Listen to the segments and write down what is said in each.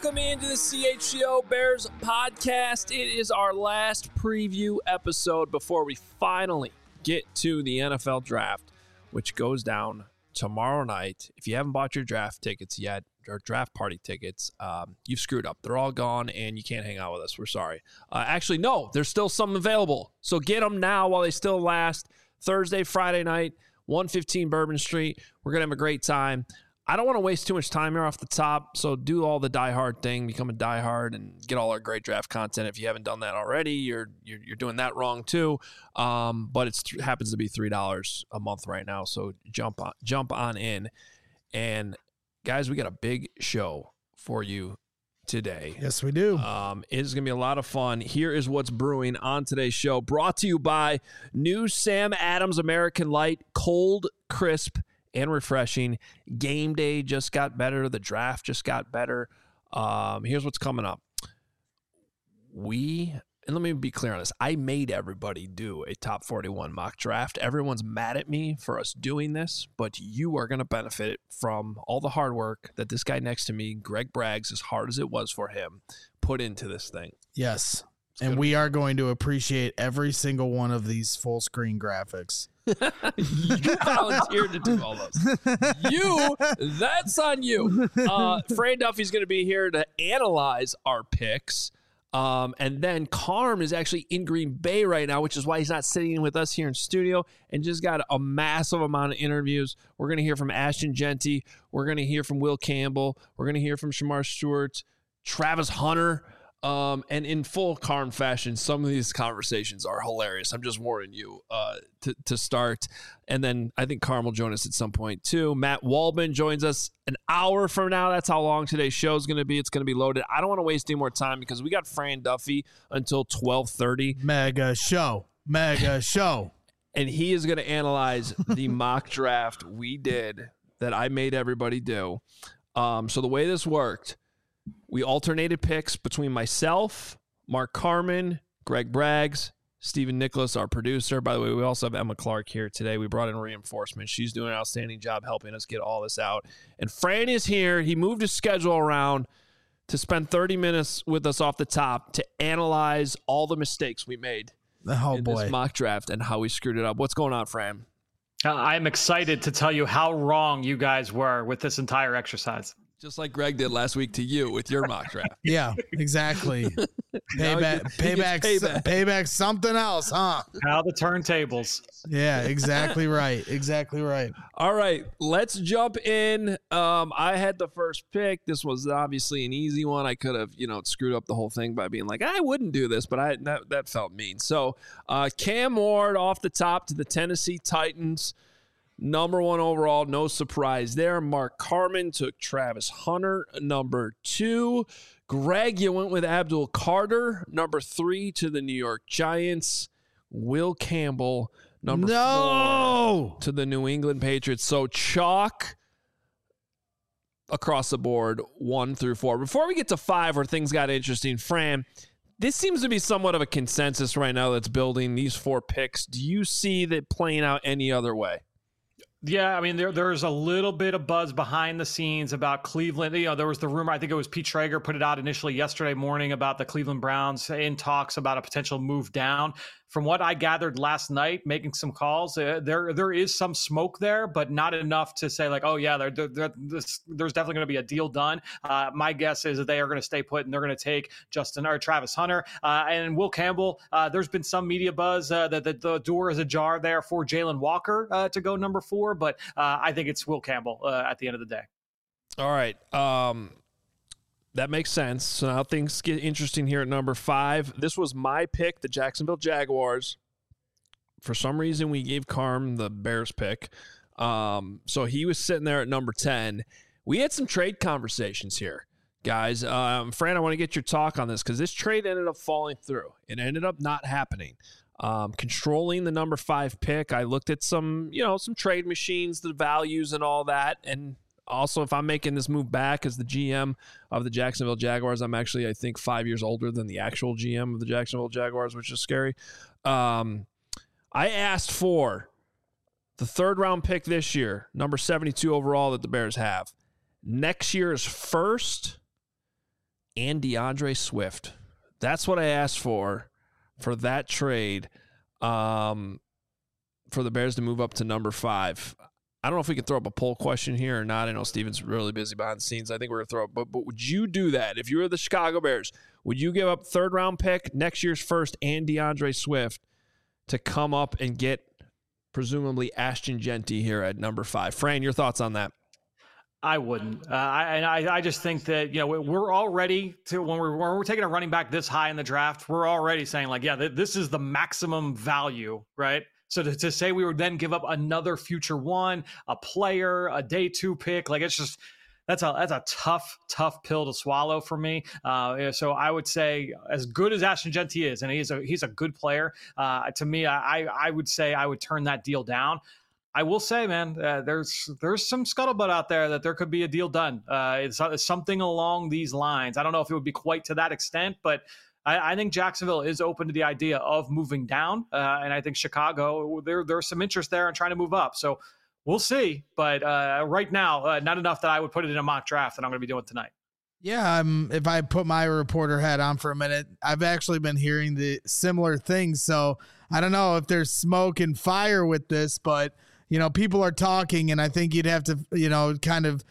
Welcome into the CHGO Bears podcast. It is our last preview episode before we finally get to the NFL draft, which goes down tomorrow night. If you haven't bought your draft tickets yet, or draft party tickets, you've screwed up. They're all gone, and you can't hang out with us. We're sorry. Actually, no, there's still some available. So get them now while they still last. Thursday, Friday night, 115 Bourbon Street. We're going to have a great time. I don't want to waste too much time here off the top, so do all the diehard thing, become a diehard, and get all our great draft content. If you haven't done that already, you're doing that wrong too. But it happens to be $3 a month right now, so jump on in. And guys, we got a big show for you today. Yes, we do. It's going to be a lot of fun. Here is what's brewing on today's show, brought to you by new Sam Adams American Light, cold, crisp, and refreshing. Game day just got better. The draft just got better. Here's what's coming up. And let me be clear on this. I made everybody do a top 41 mock draft. Everyone's mad at me for us doing this, but you are going to benefit from all the hard work that this guy next to me, Greg Braggs, as hard as it was for him, put into this thing. Yes. And we are going to appreciate every single one of these full screen graphics. You volunteered to do all those. That's on you. Fran Duffy's going to be here to analyze our picks. And then Carm is actually in Green Bay right now, which is why he's not sitting with us here in studio, and just got a massive amount of interviews. We're going to hear from Ashton Jeanty. We're going to hear from Will Campbell. We're going to hear from Shamar Stewart, Travis Hunter. And in full Carm fashion, some of these conversations are hilarious. I'm just warning you to start. And then I think Carm will join us at some point too. Matt Waldman joins us an hour from now. That's how long today's show is going to be. It's going to be loaded. I don't want to waste any more time because we got Fran Duffy until 12:30. Mega show. And he is going to analyze the mock draft we did that I made everybody do. So the way this worked, we alternated picks between myself, Mark Carman, Greg Braggs, Stephen Nicholas, our producer. By the way, we also have Emma Clark here today. We brought in reinforcements. She's doing an outstanding job helping us get all this out. And Fran is here. He moved his schedule around to spend 30 minutes with us off the top to analyze all the mistakes we made in this mock draft and how we screwed it up. What's going on, Fran? I'm excited to tell you how wrong you guys were with this entire exercise. Just like Greg did last week to you with your mock draft. Yeah, exactly. Payback, something else, huh? How the turntables. Yeah, exactly right. All right, let's jump in. I had the first pick. This was obviously an easy one. I could have, screwed up the whole thing by being like, I wouldn't do this, but that felt mean. So Cam Ward off the top to the Tennessee Titans. Number 1 overall, no surprise there. Mark Carman took Travis Hunter, number 2. Greg, you went with Abdul Carter, number 3 to the New York Giants. Will Campbell, number 4 to the New England Patriots. So chalk across the board, 1 through 4. Before we get to 5, where things got interesting, Fran, this seems to be somewhat of a consensus right now that's building these 4 picks. Do you see that playing out any other way? Yeah, I mean, there's a little bit of buzz behind the scenes about Cleveland. There was the rumor, I think it was Pete Traeger put it out initially yesterday morning about the Cleveland Browns in talks about a potential move down. From what I gathered last night, making some calls, there is some smoke there, but not enough to say like, oh yeah, there's definitely going to be a deal done. My guess is that they are going to stay put and they're going to take Travis Hunter and Will Campbell. There's been some media buzz that the door is ajar there for Jalen Walker to go number 4, but I think it's Will Campbell at the end of the day. All right. That makes sense. So now things get interesting here at number 5. This was my pick, the Jacksonville Jaguars. For some reason, we gave Carm the Bears pick. So he was sitting there at number 10. We had some trade conversations here, guys. Fran, I want to get your talk on this because this trade ended up falling through. It ended up not happening. Controlling the number 5 pick, I looked at some trade machines, the values and all that, and also, if I'm making this move back as the GM of the Jacksonville Jaguars, I'm actually, I think, 5 years older than the actual GM of the Jacksonville Jaguars, which is scary. I asked for the 3rd round pick this year, number 72 overall that the Bears have. Next year's 1st and DeAndre Swift. That's what I asked for that trade, for the Bears to move up to number 5. I don't know if we can throw up a poll question here or not. I know Steven's really busy behind the scenes. I think we're going to throw up, but would you do that? If you were the Chicago Bears, would you give up 3rd round pick, next year's first, and DeAndre Swift to come up and get presumably Ashton Jeanty here at number 5? Fran, your thoughts on that? I wouldn't. I just think that, we're already when we're taking a running back this high in the draft, we're already saying like, yeah, this is the maximum value, right? So to say we would then give up another future one, a player, a day 2 pick, like it's just, that's a tough pill to swallow for me. So I would say, as good as Ashton Jeanty is, and he's a good player, to me, I would say I would turn that deal down. I will say, man, there's some scuttlebutt out there that there could be a deal done. It's something along these lines. I don't know if it would be quite to that extent, but I think Jacksonville is open to the idea of moving down, and I think Chicago, there's some interest there in trying to move up. So we'll see. But right now, not enough that I would put it in a mock draft that I'm going to be doing tonight. Yeah, if I put my reporter hat on for a minute, I've actually been hearing the similar things. So I don't know if there's smoke and fire with this, but people are talking, and I think you'd have to, kind of,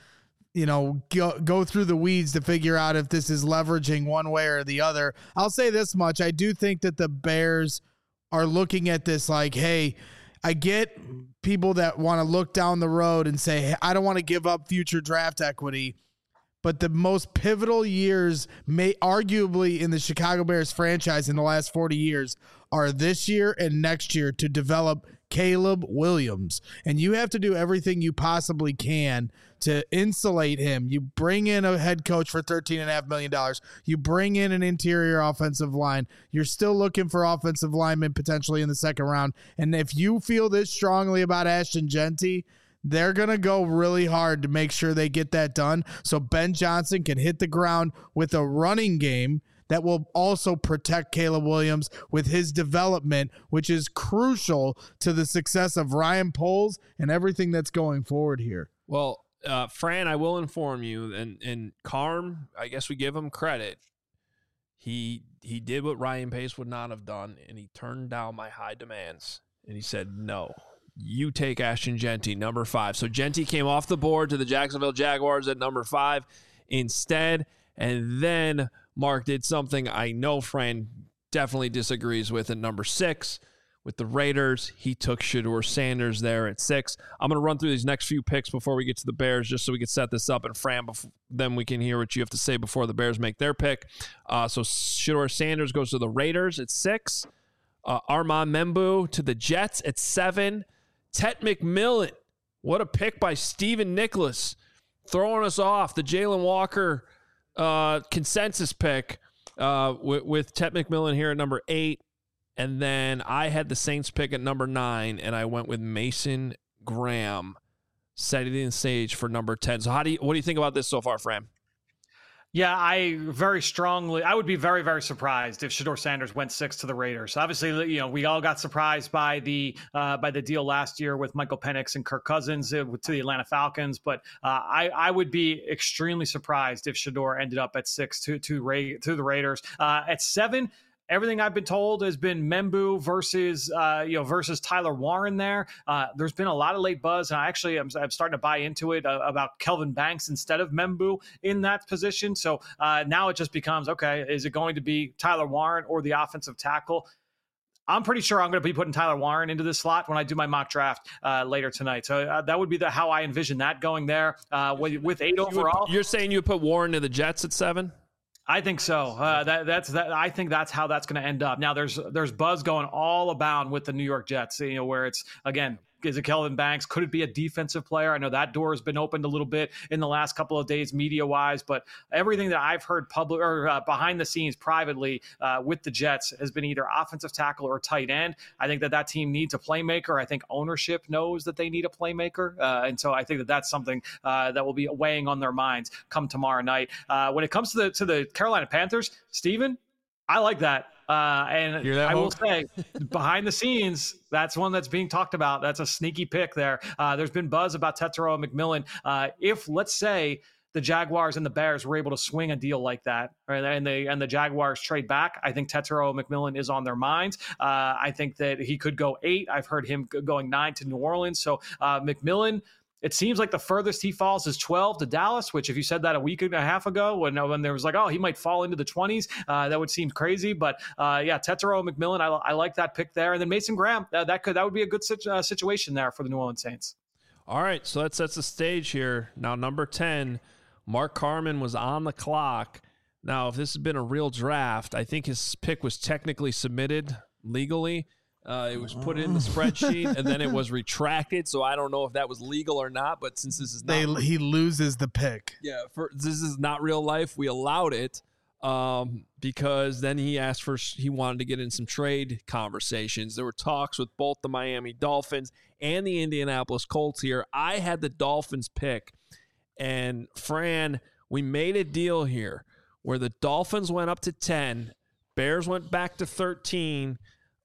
go through the weeds to figure out if this is leveraging one way or the other. I'll say this much. I do think that the Bears are looking at this like, hey, I get people that want to look down the road and say, hey, I don't want to give up future draft equity, but the most pivotal years may arguably in the Chicago Bears franchise in the last 40 years are this year and next year to develop Caleb Williams. And you have to do everything you possibly can to insulate him. You bring in a head coach for $13.5 million. You bring in an interior offensive line. You're still looking for offensive linemen potentially in the 2nd round. And if you feel this strongly about Ashton Jeanty, they're going to go really hard to make sure they get that done so Ben Johnson can hit the ground with a running game that will also protect Caleb Williams with his development, which is crucial to the success of Ryan Poles and everything that's going forward here. Well, Fran, I will inform you, and Carm, I guess we give him credit. He did what Ryan Pace would not have done, and he turned down my high demands, and he said, no, you take Ashton Jeanty, number 5. So Jeanty came off the board to the Jacksonville Jaguars at number 5 instead, and then Mark did something I know Fran definitely disagrees with at number 6. With the Raiders, he took Shedeur Sanders there at 6. I'm going to run through these next few picks before we get to the Bears, just so we can set this up. And Fran, then we can hear what you have to say before the Bears make their pick. So Shedeur Sanders goes to the Raiders at 6. Armand Membou to the Jets at 7. Tet McMillan, what a pick by Stephen Nicholas, throwing us off the Jalen Walker consensus pick with Tet McMillan here at number 8. And then I had the Saints pick at number 9, and I went with Mason Graham, setting the stage for number 10. So what do you think about this so far, Fran? Yeah, I would be very, very surprised if Shedeur Sanders went 6 to the Raiders. Obviously, we all got surprised by the deal last year with Michael Penix and Kirk Cousins to the Atlanta Falcons. But I would be extremely surprised if Shedeur ended up at 6 to the Raiders. At 7, everything I've been told has been Membou versus Tyler Warren there. There's been a lot of late buzz, and I'm starting to buy into it about Kelvin Banks instead of Membou in that position. So now it just becomes, okay, is it going to be Tyler Warren or the offensive tackle? I'm pretty sure I'm going to be putting Tyler Warren into this slot when I do my mock draft later tonight. So that would be how I envision that going there with 8 overall. You're saying you would put Warren to the Jets at 7? I think so. I think that's how that's going to end up. Now, there's buzz going all about with the New York Jets. Where it's again, is it Kelvin Banks? Could it be a defensive player? I know that door has been opened a little bit in the last couple of days, media wise. But everything that I've heard public or behind the scenes privately with the Jets has been either offensive tackle or tight end. I think that team needs a playmaker. I think ownership knows that they need a playmaker, and so I think that's something that will be weighing on their minds come tomorrow night. When it comes to the Carolina Panthers, Steven, I like that. And I will say, behind the scenes, that's one that's being talked about. That's a sneaky pick there. There's been buzz about Tetairoa McMillan. If, let's say, the Jaguars and the Bears were able to swing a deal like that, right? And the Jaguars trade back, I think Tetairoa McMillan is on their minds. I think that he could go 8. I've heard him going 9 to New Orleans. So McMillan, it seems like the furthest he falls is 12 to Dallas, which if you said that a week and a half ago when there was like, oh, he might fall into the 20s, that would seem crazy. But Tetairoa McMillan, I like that pick there. And then Mason Graham, that would be a good situation there for the New Orleans Saints. All right, so that sets the stage here. Now, number 10, Mark Carman was on the clock. Now, if this had been a real draft, I think his pick was technically submitted legally. It was put in the spreadsheet, and then it was retracted. So I don't know if that was legal or not. But since this is not, he loses the pick. Yeah, this is not real life. We allowed it because then he asked he wanted to get in some trade conversations. There were talks with both the Miami Dolphins and the Indianapolis Colts here. I had the Dolphins pick, and Fran, we made a deal here where the Dolphins went up to 10, Bears went back to 13.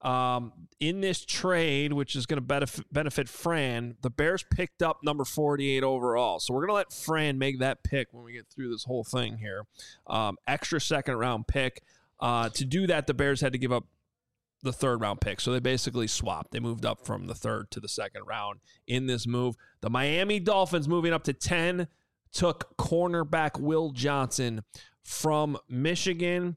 In this trade, which is going to benefit Fran, the Bears picked up number 48 overall. So we're going to let Fran make that pick when we get through this whole thing here. Extra second-round pick. To do that, the Bears had to give up the third-round pick. So they basically swapped. They moved up from the third to the second round in this move. The Miami Dolphins, moving up to 10, took cornerback Will Johnson from Michigan.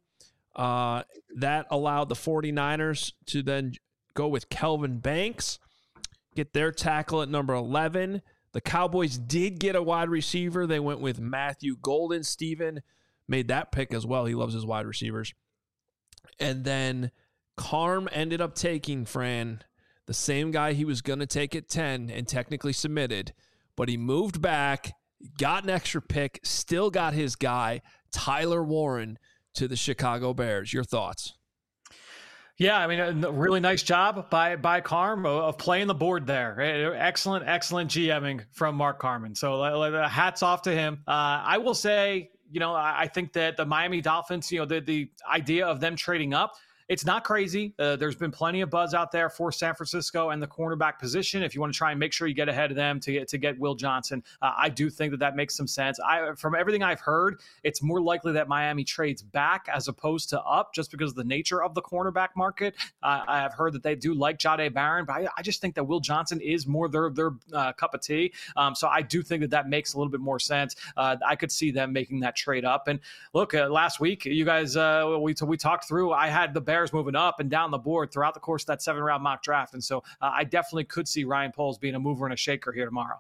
That allowed the 49ers to then go with Kelvin Banks, get their tackle at number 11. The Cowboys did get a wide receiver. They went with Matthew Golden. Steven made that pick as well. He loves his wide receivers. And then Carm ended up taking, Fran, the same guy he was going to take at 10 and technically submitted, but he moved back, got an extra pick, still got his guy, Tyler Warren, to the Chicago Bears. Your thoughts? Yeah, I mean, a really nice job by Carm of playing the board there. Excellent GMing from Mark Carman. So hats off to him. I will say, I think that the Miami Dolphins, the idea of them trading up, it's not crazy. There's been plenty of buzz out there for San Francisco and the cornerback position. If you want to try and make sure you get ahead of them to get Will Johnson, I do think that makes some sense. From everything I've heard, it's more likely that Miami trades back as opposed to up, just because of the nature of the cornerback market. I have heard that they do like Jahdae Barron, but I just think that Will Johnson is more their cup of tea. So I do think that makes a little bit more sense. I could see them making that trade up. And look, last week, you guys, we talked through. I had the Bears moving up and down the board throughout the course of that 7-round mock draft. And so I definitely could see Ryan Poles being a mover and a shaker here tomorrow.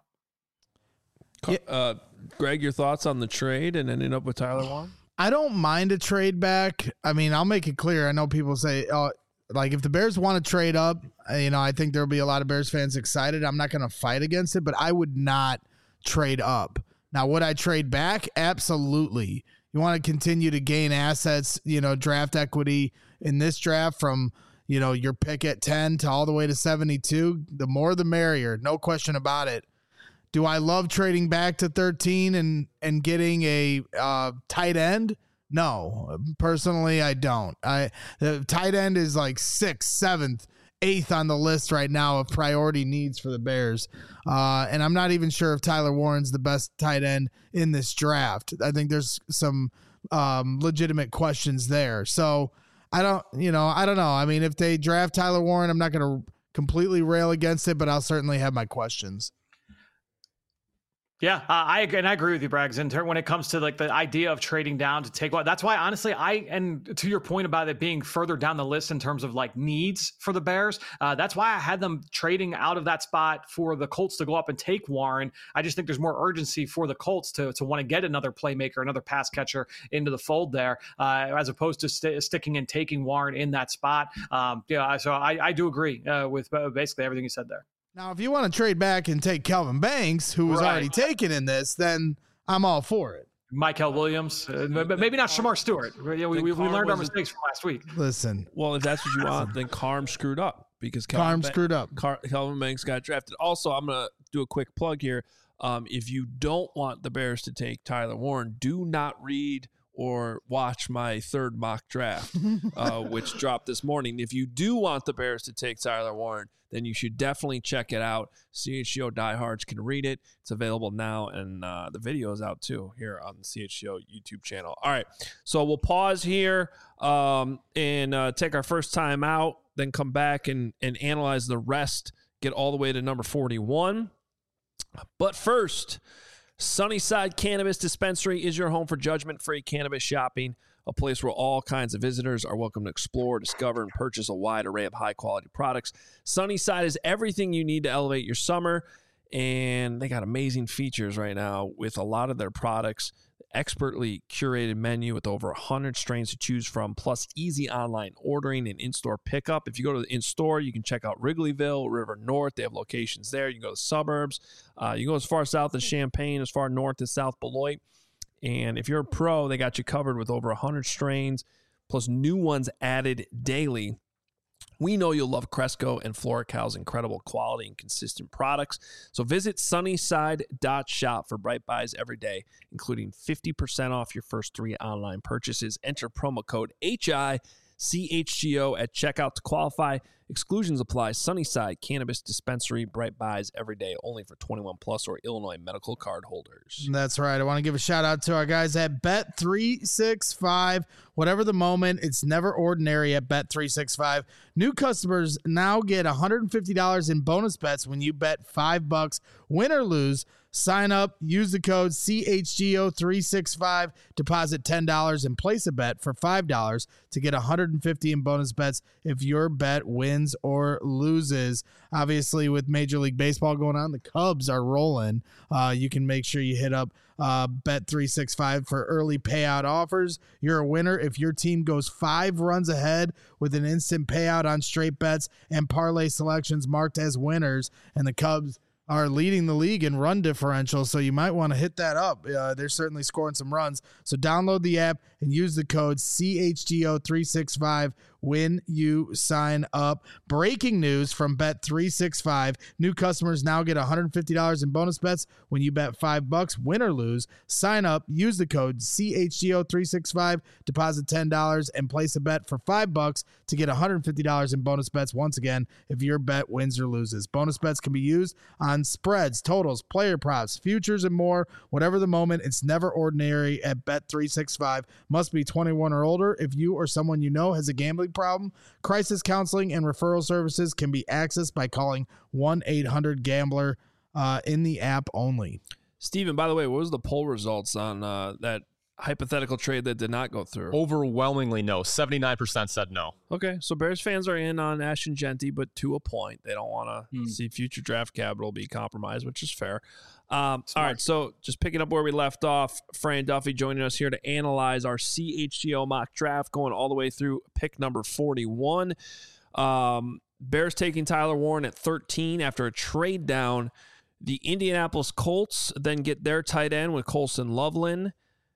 Greg, your thoughts on the trade and ending up with Tyler Warren? I don't mind a trade back. I mean, I'll make it clear. I know people say, like if the Bears want to trade up, I think there'll be a lot of Bears fans excited. I'm not going to fight against it, but I would not trade up. Now, would I trade back? Absolutely. You want to continue to gain assets, draft equity in this draft from, your pick at 10 to all the way to 72. The more the merrier, no question about it. Do I love trading back to 13 and getting a tight end? No, personally, I don't. The tight end is like 6th, 7th, 8th on the list right now of priority needs for the Bears. And I'm not even sure if Tyler Warren's the best tight end in this draft. I think there's some legitimate questions there. So I don't know. I mean, if they draft Tyler Warren, I'm not going to completely rail against it, but I'll certainly have my questions. Yeah, I agree with you, Braggs. When it comes to like the idea of trading down to take one, that's why honestly, and to your point about it being further down the list in terms of like needs for the Bears, that's why I had them trading out of that spot for the Colts to go up and take Warren. I just think there's more urgency for the Colts to want to get another playmaker, another pass catcher into the fold there, as opposed to sticking and taking Warren in that spot. So I do agree with basically everything you said there. Now, if you want to trade back and take Kelvin Banks, who was already taken in this, then I'm all for it. Michael Williams, maybe not Shamar Stewart. We learned our mistakes from last week. Listen. Well, if that's what you want, then Carm screwed up because Kelvin Banks got drafted. Also, I'm going to do a quick plug here. If you don't want the Bears to take Tyler Warren, do not read or watch my third mock draft, which dropped this morning. If you do want the Bears to take Tyler Warren, then you should definitely check it out. CHGO diehards can read it. It's available now, and the video is out too here on the CHGO YouTube channel. All right, so we'll pause here and take our first time out, then come back and analyze the rest, get all the way to number 41. But first, Sunnyside Cannabis Dispensary is your home for judgment-free cannabis shopping, a place where all kinds of visitors are welcome to explore, discover, and purchase a wide array of high-quality products. Sunnyside is everything you need to elevate your summer, and they got amazing features right now with a lot of their products. Expertly curated menu with over 100 strains to choose from, plus easy online ordering and in-store pickup. If you go to the in-store, you can check out Wrigleyville, River North. They have locations there. You can go to the suburbs. You go as far south as Champaign, as far north as South Beloit. And if you're a pro, they got you covered with over 100 strains, plus new ones added daily. We know you'll love Cresco and FloraCal's incredible quality and consistent products. So visit sunnyside.shop for bright buys every day, including 50% off your first 3 online purchases. Enter promo code HICHGO at checkout to qualify. Exclusions apply. Sunnyside Cannabis Dispensary, bright buys every day, only for 21 plus or Illinois medical card holders. That's right. I want to give a shout out to our guys at Bet365. Whatever the moment, it's never ordinary at Bet365. New customers now get $150 in bonus bets when you bet $5, win or lose. Sign up, use the code CHGO365, deposit $10 and place a bet for $5 to get $150 in bonus bets if your bet wins or loses. Obviously, with Major League Baseball going on, the Cubs are rolling. You can make sure you hit up Bet365 for early payout offers. You're a winner if your team goes 5 runs ahead with an instant payout on straight bets and parlay selections marked as winners, and the Cubs are leading the league in run differential, so you might want to hit that up. They're certainly scoring some runs. So download the app and use the code CHGO365 when you sign up. Breaking news from Bet365. New customers now get $150 in bonus bets when you bet $5, win or lose. Sign up, use the code CHGO365, deposit $10 and place a bet for $5 to get $150 in bonus bets once again if your bet wins or loses. Bonus bets can be used on spreads, totals, player props, futures, and more. Whatever the moment, it's never ordinary at Bet365. Must be 21 or older. If you or someone you know has a gambling problem, crisis counseling and referral services can be accessed by calling 1-800-GAMBLER in the app only. Steven, by the way, what was the poll results on that hypothetical trade that did not go through? Overwhelmingly no. 79% said no. Okay, so Bears fans are in on Ashton Genty, but to a point. They don't want to see future draft capital be compromised, which is fair. All right, so just picking up where we left off, Fran Duffy joining us here to analyze our CHGO mock draft, going all the way through pick number 41. Bears taking Tyler Warren at 13 after a trade down. The Indianapolis Colts then get their tight end with Colston Loveland.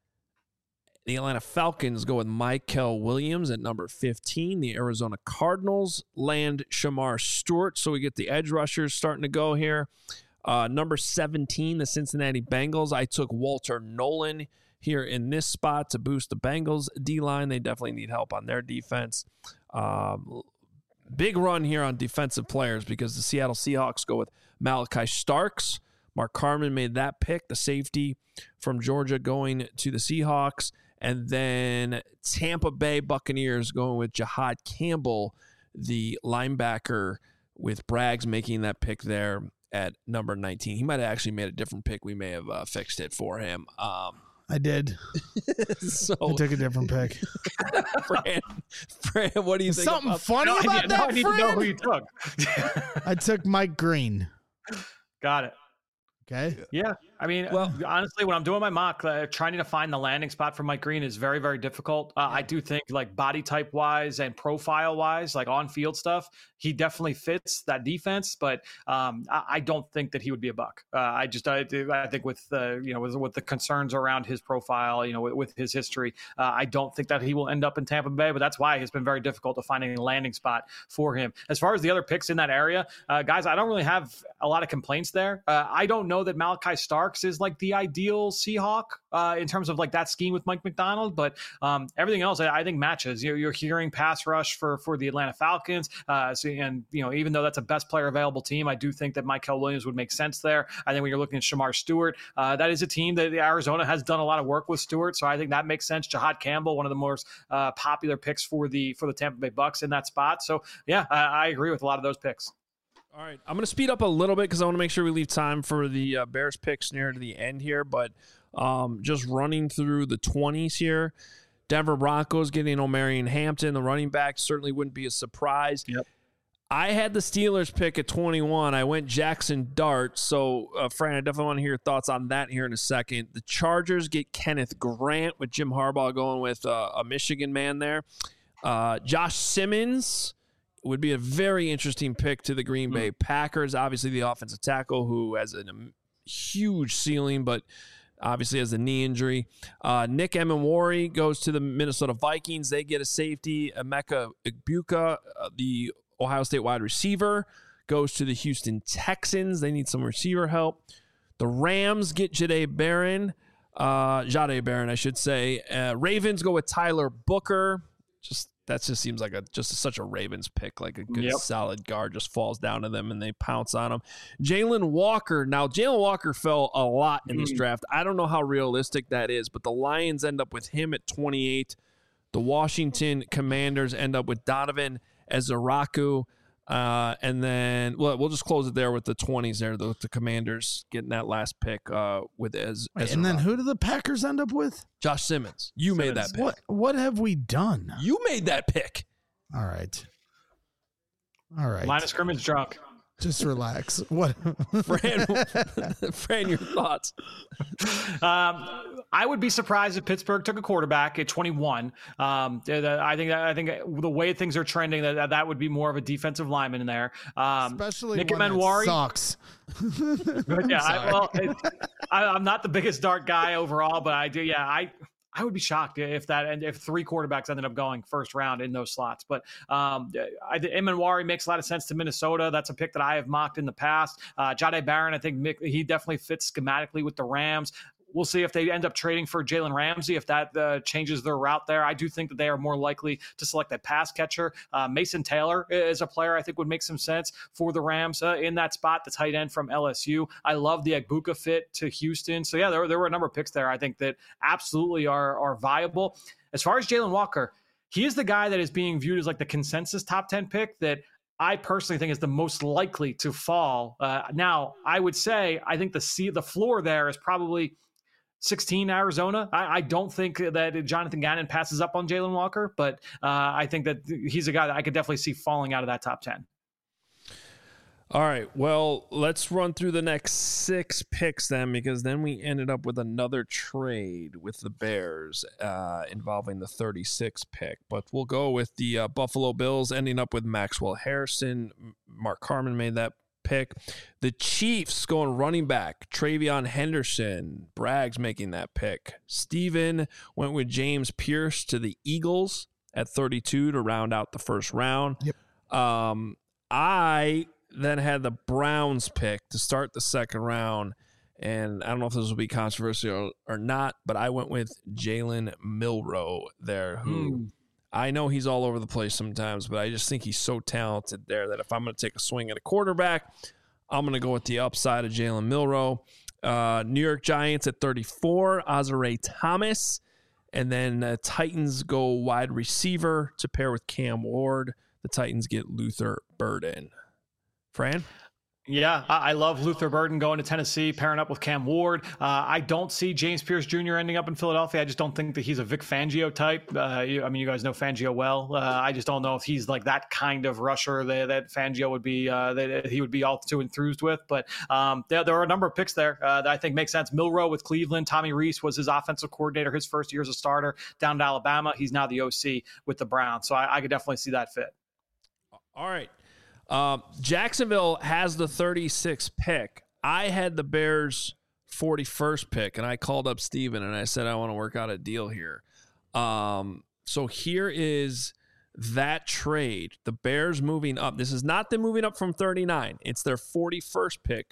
The Atlanta Falcons go with Michael Williams at number 15. The Arizona Cardinals land Shamar Stewart, so we get the edge rushers starting to go here. Number 17, the Cincinnati Bengals. I took Walter Nolan here in this spot to boost the Bengals D-line. They definitely need help on their defense. Big run here on defensive players because the Seattle Seahawks go with Malachi Starks. Mark Carman made that pick, the safety from Georgia going to the Seahawks. And then Tampa Bay Buccaneers going with Jihad Campbell, the linebacker, with Braggs making that pick there at number 19. He might have actually made a different pick. We may have fixed it for him. I did. So I took a different pick. Fran, what do you think? Something funny about that, I need to know who you took. I took Mike Green. Got it. Okay. Yeah. I mean, well, honestly, when I'm doing my mock, trying to find the landing spot for Mike Green is very, very difficult. I do think like body type wise and profile wise, like on field stuff, he definitely fits that defense, but I don't think that he would be a Buck. I think with with the concerns around his profile, with his history, I don't think that he will end up in Tampa Bay, but that's why it's been very difficult to find a landing spot for him. As far as the other picks in that area, guys, I don't really have a lot of complaints there. I don't know know that Malachi Starks is like the ideal Seahawk in terms of like that scheme with Mike McDonald, but everything else I think matches. You're hearing pass rush for the Atlanta Falcons, and even though that's a best player available team, I do think that Mykel Williams would make sense there. I think when you're looking at Shamar Stewart, that is a team that Arizona has done a lot of work with Stewart, so I think that makes sense. Jahad Campbell, one of the most popular picks for the Tampa Bay Bucks in that spot. So yeah, I agree with a lot of those picks. All right, I'm going to speed up a little bit because I want to make sure we leave time for the Bears picks near to the end here. But just running through the 20s here, Denver Broncos getting Omarion Hampton, the running back, certainly wouldn't be a surprise. Yep. I had the Steelers pick at 21. I went Jackson Dart. So, Fran, I definitely want to hear your thoughts on that here in a second. The Chargers get Kenneth Grant with Jim Harbaugh going with a Michigan man there. Josh Simmons would be a very interesting pick to the Green Bay Packers. Obviously, the offensive tackle who has a huge ceiling, but obviously has a knee injury. Nick Emenwari goes to the Minnesota Vikings. They get a safety. Emeka Egbuka, the Ohio State wide receiver, goes to the Houston Texans. They need some receiver help. The Rams get Jahdae Barron, I should say. Ravens go with Tyler Booker. That just seems like such a Ravens pick, like a good solid guard just falls down to them and they pounce on him. Jalen Walker. Now, Jalen Walker fell a lot in this draft. I don't know how realistic that is, but the Lions end up with him at 28. The Washington Commanders end up with Donovan Ezaraku. And then we'll just close it there with the 20s there. The Commanders getting that last pick with Ezaraku. And then who do the Packers end up with? Josh Simmons. You made that pick. What have we done? You made that pick. All right. Line of scrimmage drunk. Just relax. What, Fran, your thoughts? I would be surprised if Pittsburgh took a quarterback at 21. I think the way things are trending, that would be more of a defensive lineman in there. Especially Nick one Emenwari sucks. I'm not the biggest Dart guy overall, but I do. Yeah, I would be shocked if three quarterbacks ended up going first round in those slots. But Emenwari makes a lot of sense to Minnesota. That's a pick that I have mocked in the past. Jahdae Barron, I think he definitely fits schematically with the Rams. We'll see if they end up trading for Jalen Ramsey, if that changes their route there. I do think that they are more likely to select a pass catcher. Mason Taylor is a player I think would make some sense for the Rams in that spot, the tight end from LSU. I love the Egbuka fit to Houston. So, yeah, there were a number of picks there I think that absolutely are viable. As far as Jalen Walker, he is the guy that is being viewed as like the consensus top 10 pick that I personally think is the most likely to fall. Now, I would say I think the floor there is probably 16 Arizona. I don't think that Jonathan Gannon passes up on Jalen Walker, but I think that he's a guy that I could definitely see falling out of that top 10. All right, well, let's run through the next 6 picks then, because then we ended up with another trade with the Bears involving the 36th pick. But we'll go with the Buffalo Bills ending up with Maxwell Harrison. Mark Carman made that pick. The Chiefs going running back Travion Henderson. Bragg's making that pick. Steven went with James Pierce to the Eagles at 32 to round out the first round. Yep. I then had the Browns pick to start the second round, and I don't know if this will be controversial or not, but I went with Jalen Milroe there, who I know he's all over the place sometimes, but I just think he's so talented there that if I'm going to take a swing at a quarterback, I'm going to go with the upside of Jalen Milroe. New York Giants at 34, Azare Thomas. And then Titans go wide receiver to pair with Cam Ward. The Titans get Luther Burden. Fran? Yeah, I love Luther Burden going to Tennessee, pairing up with Cam Ward. I don't see James Pierce Jr. ending up in Philadelphia. I just don't think that he's a Vic Fangio type. You guys know Fangio well. I just don't know if he's like that kind of rusher that Fangio would be, that he would be all too enthused with. But there are a number of picks there that I think make sense. Milroe with Cleveland. Tommy Reese was his offensive coordinator his first year as a starter down to Alabama. He's now the OC with the Browns. So I could definitely see that fit. All right. Jacksonville has the 36th pick. I had the Bears 41st pick, and I called up Steven and I said, I want to work out a deal here. So here is that trade. The Bears moving up. This is not them moving up from 39. It's their 41st pick,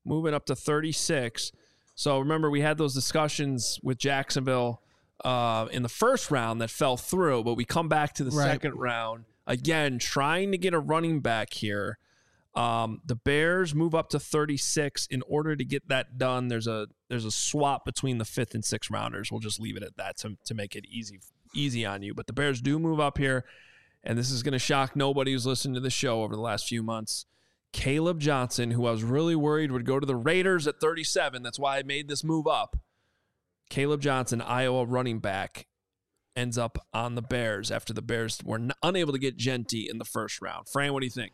moving up to 36. So remember, we had those discussions with Jacksonville in the first round that fell through, but we come back to the second round again, trying to get a running back here. The Bears move up to 36. In order to get that done, there's a swap between the 5th and 6th rounders. We'll just leave it at that to make it easy on you. But the Bears do move up here, and this is going to shock nobody who's listened to the show over the last few months. Caleb Johnson, who I was really worried would go to the Raiders at 37. That's why I made this move up. Caleb Johnson, Iowa running back, ends up on the Bears after the Bears were unable to get Genty in the first round. Fran, what do you think?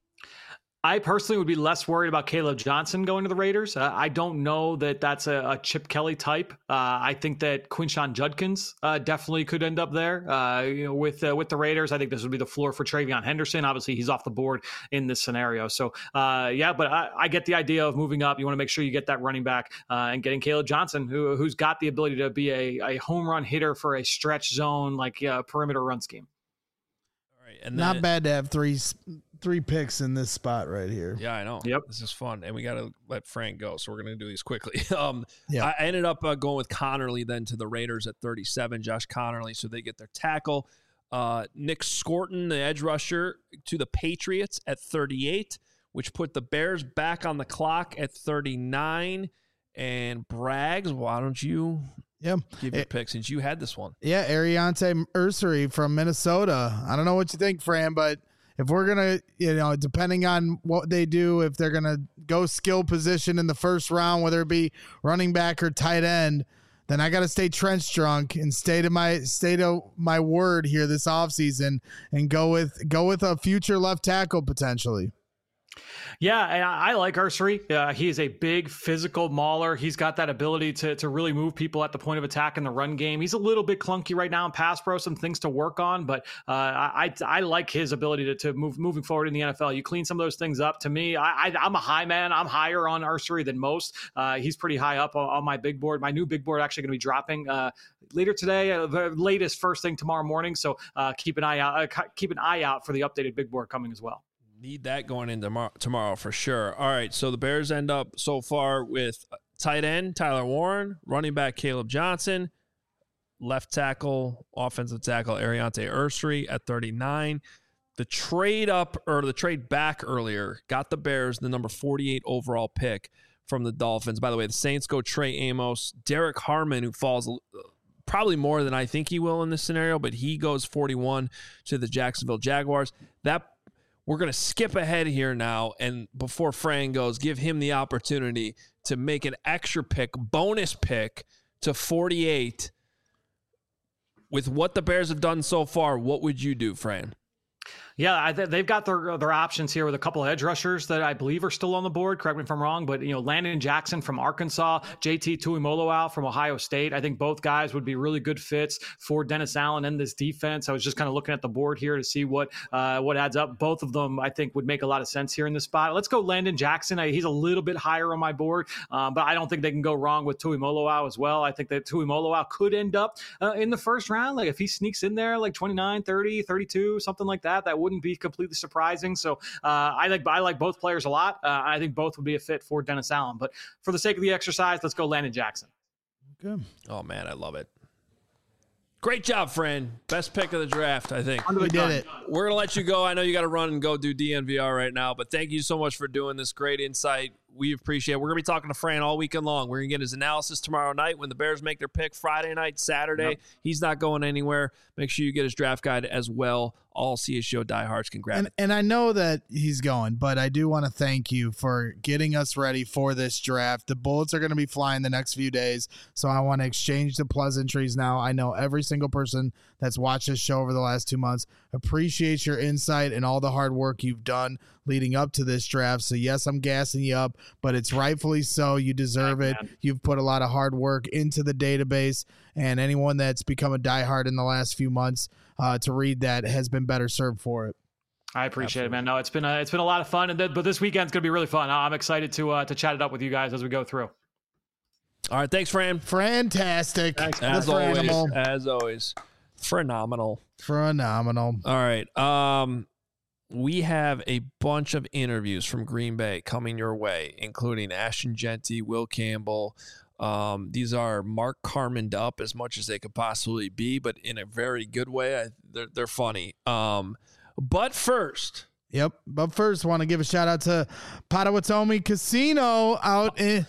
I personally would be less worried about Caleb Johnson going to the Raiders. I don't know that that's a Chip Kelly type. I think that Quinshon Judkins definitely could end up there. With the Raiders, I think this would be the floor for Travion Henderson. Obviously, he's off the board in this scenario. So, but I get the idea of moving up. You want to make sure you get that running back and getting Caleb Johnson, who's got the ability to be a home run hitter for a stretch zone, like perimeter run scheme. All right, and not bad to have three picks in this spot right here. Yeah, I know. Yep. This is fun. And we got to let Frank go. So we're going to do these quickly. Yeah. I ended up going with Connerly then to the Raiders at 37, Josh Connerly. So they get their tackle. Nick Scorton, the edge rusher, to the Patriots at 38, which put the Bears back on the clock at 39. And Braggs, why don't you give your pick since you had this one? Yeah, Ariante Ursery from Minnesota. I don't know what you think, Fran, but if we're going to, depending on what they do, if they're going to go skill position in the first round, whether it be running back or tight end, then I got to stay trench drunk and stay to my word here this offseason and go with a future left tackle potentially. Yeah, and I like Ursery. He is a big physical mauler. He's got that ability to really move people at the point of attack in the run game. He's a little bit clunky right now in pass pro, some things to work on, but I like his ability to moving forward in the NFL. You clean some of those things up. To me, I'm a high man. I'm higher on Ursery than most. He's pretty high up on my big board. My new big board actually going to be dropping later today, the latest first thing tomorrow morning. So keep an eye out for the updated big board coming as well. Need that going in tomorrow for sure. All right, so the Bears end up so far with tight end Tyler Warren, running back Caleb Johnson, left tackle, offensive tackle Ariante Ursery at 39. The trade up or the trade back earlier got the Bears the number 48 overall pick from the Dolphins. By the way, the Saints go Trey Amos, Derek Harmon, who falls probably more than I think he will in this scenario, but he goes 41 to the Jacksonville Jaguars. We're going to skip ahead here now, and before Fran goes, give him the opportunity to make an extra pick, bonus pick to 48. With what the Bears have done so far, what would you do, Fran? Yeah, they've got their options here with a couple of edge rushers that I believe are still on the board. Correct me if I'm wrong, but Landon Jackson from Arkansas, JT Tuimoloau from Ohio State. I think both guys would be really good fits for Dennis Allen and this defense. I was just kind of looking at the board here to see what adds up. Both of them, I think, would make a lot of sense here in this spot. Let's go Landon Jackson. He's a little bit higher on my board, but I don't think they can go wrong with Tuimoloau as well. I think that Tuimoloau could end up in the first round. Like if he sneaks in there like 29, 30, 32, something like that, that wouldn't be completely surprising. So I like both players a lot. I think both would be a fit for Dennis Allen. But for the sake of the exercise, let's go Landon Jackson. Good. Oh, man, I love it. Great job, Fran. Best pick of the draft, I think. We did it. We're going to let you go. I know you got to run and go do DNVR right now, but thank you so much for doing this. Great insight. We appreciate it. We're going to be talking to Fran all weekend long. We're going to get his analysis tomorrow night when the Bears make their pick Friday night, Saturday. Yep. He's not going anywhere. Make sure you get his draft guide as well. All CSGO diehards can grab it. And I know that he's going, but I do want to thank you for getting us ready for this draft. The bullets are going to be flying the next few days, so I want to exchange the pleasantries now. I know every single person that's watched this show over the last 2 months appreciates your insight and all the hard work you've done leading up to this draft. So yes, I'm gassing you up, but it's rightfully so. You deserve it. Man. You've put a lot of hard work into the database, and anyone that's become a diehard in the last few months to read that has been better served for it. I appreciate it, man. No, it's been a lot of fun, but this weekend's gonna be really fun. I'm excited to chat it up with you guys as we go through. All right, thanks, Fran. Fantastic. Thanks, as always. Phenomenal. All right. we have a bunch of interviews from Green Bay coming your way, including Ashton Jeanty, Will Campbell. These are Mark Carmen'd up as much as they could possibly be, but in a very good way. They're funny. But first, want to give a shout out to Potawatomi Casino out in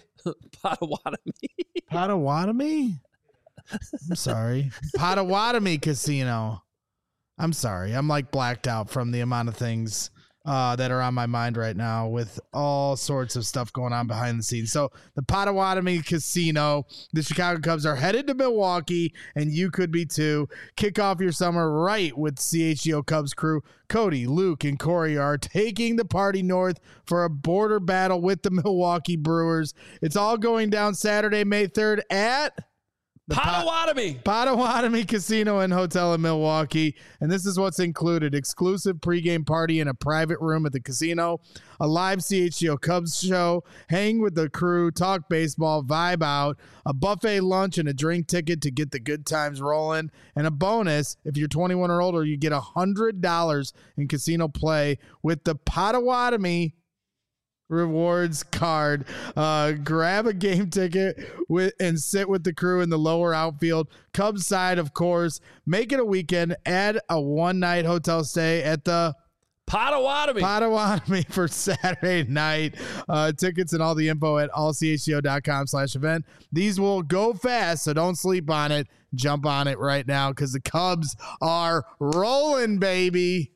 Potawatomi. I'm sorry, Potawatomi Casino. I'm sorry, I'm like blacked out from the amount of things that are on my mind right now with all sorts of stuff going on behind the scenes. So the Potawatomi Casino, the Chicago Cubs are headed to Milwaukee, and you could be too. Kick off your summer right with CHGO Cubs crew. Cody, Luke, and Corey are taking the party north for a border battle with the Milwaukee Brewers. It's all going down Saturday, May 3rd at the Potawatomi Casino and Hotel in Milwaukee. And this is what's included: exclusive pregame party in a private room at the casino, a live CHGO Cubs show, hang with the crew, talk baseball, vibe out, a buffet lunch and a drink ticket to get the good times rolling. And a bonus, if you're 21 or older, you get $100 in casino play with the Potawatomi rewards card. Grab a game ticket and sit with the crew in the lower outfield. Cubs side, of course. Make it a weekend. Add a one-night hotel stay at the Potawatomi for Saturday night. Tickets and all the info at allchgo.com/event. These will go fast, so don't sleep on it. Jump on it right now because the Cubs are rolling, baby.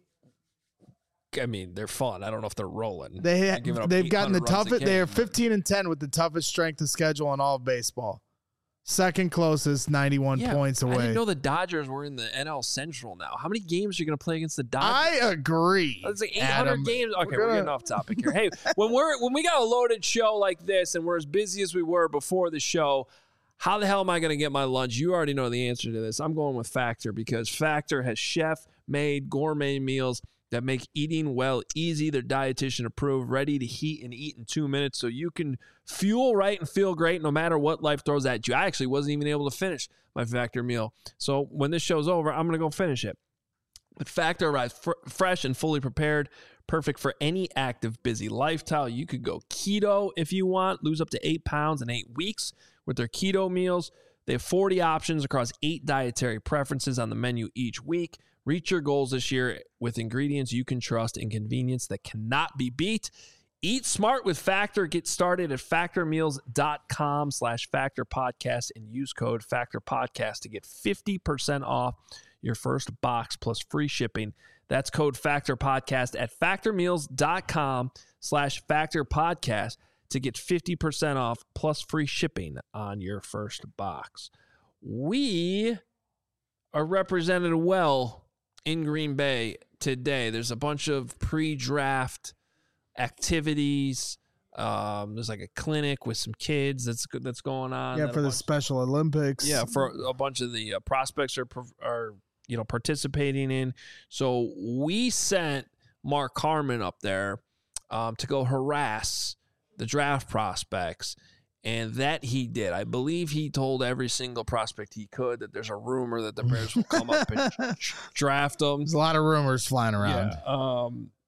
I mean, they're fun. I don't know if they're rolling. They've gotten the toughest. They are 15-10 with the toughest strength of schedule in all of baseball. Second closest, 91 points away. I didn't know the Dodgers were in the NL Central now. How many games are you going to play against the Dodgers? I agree. It's like 800 games. Okay, we're getting off topic here. Hey, when we got a loaded show like this and we're as busy as we were before the show, how the hell am I going to get my lunch? You already know the answer to this. I'm going with Factor because Factor has chef-made gourmet meals that make eating well easy. They're dietitian approved, ready to heat and eat in 2 minutes so you can fuel right and feel great no matter what life throws at you. I actually wasn't even able to finish my Factor meal. So when this show's over, I'm going to go finish it. But Factor arrives fresh and fully prepared, perfect for any active, busy lifestyle. You could go keto if you want, lose up to 8 pounds in 8 weeks with their keto meals. They have 40 options across 8 dietary preferences on the menu each week. Reach your goals this year with ingredients you can trust and convenience that cannot be beat. Eat smart with Factor. Get started at factormeals.com/factorpodcast and use code factorpodcast to get 50% off your first box plus free shipping. That's code factorpodcast at factormeals.com/factorpodcast to get 50% off plus free shipping on your first box. We are represented well in Green Bay today. There's a bunch of pre-draft activities. There's like a clinic with some kids that's going on. Yeah, for the Special Olympics. Yeah, for a bunch of the prospects are participating in. So we sent Mark Carmen up there to go harass the draft prospects. And that he did. I believe he told every single prospect he could that there's a rumor that the Bears will come up and draft them. There's a lot of rumors flying around. Yeah.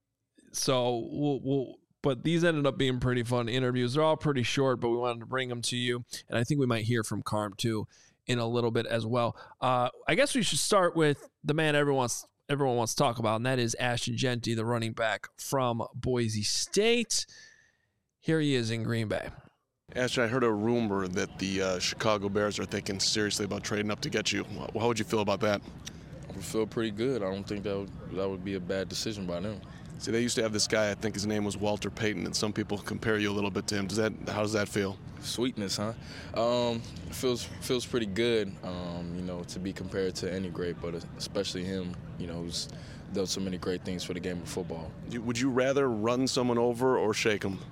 But these ended up being pretty fun interviews. They're all pretty short, but we wanted to bring them to you. And I think we might hear from Carm too in a little bit as well. I guess we should start with the man everyone wants to talk about, and that is Ashton Jeanty, the running back from Boise State. Here he is in Green Bay. Ashton, I heard a rumor that the Chicago Bears are thinking seriously about trading up to get you. How would you feel about that? I would feel pretty good. I don't think that would be a bad decision by them. See, they used to have this guy, I think his name was Walter Payton, and some people compare you a little bit to him. How does that feel? Sweetness, huh? Feels pretty good, to be compared to any great, but especially him, who's done so many great things for the game of football. Would you rather run someone over or shake them?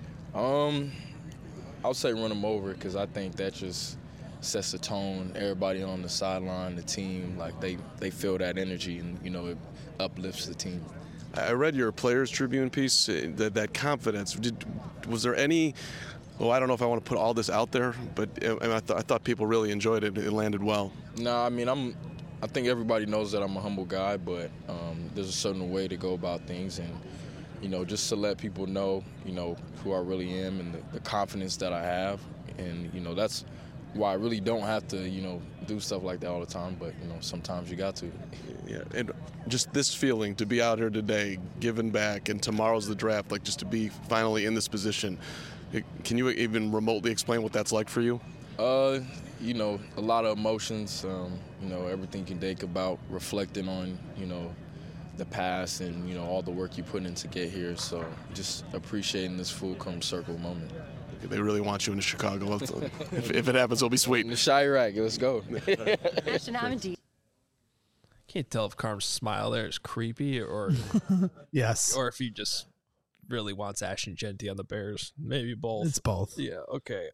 I would say run them over because I think that just sets the tone. Everybody on the sideline, the team, like they feel that energy and, it uplifts the team. I read your Players Tribune piece, that confidence. Was there any, I don't know if I want to put all this out there, but I thought people really enjoyed it. It landed well. No, I mean, I think everybody knows that I'm a humble guy, but there's a certain way to go about things, and just to let people know, who I really am and the confidence that I have, and that's why I really don't have to, do stuff like that all the time, but sometimes you got to. Yeah, and just this feeling to be out here today, giving back, and tomorrow's the draft, like just to be finally in this position. Can you even remotely explain what that's like for you? A lot of emotions, everything you can think about, reflecting on, the past and, all the work you put in to get here. So just appreciating this full come circle moment. They really want you in Chicago. If it happens, it'll be sweet. In the Chirac, let's go. Can't tell if Carm's smile there is creepy or Yes. or if he just really wants Ashton Jeanty on the Bears. Maybe both. It's both. Yeah. Okay.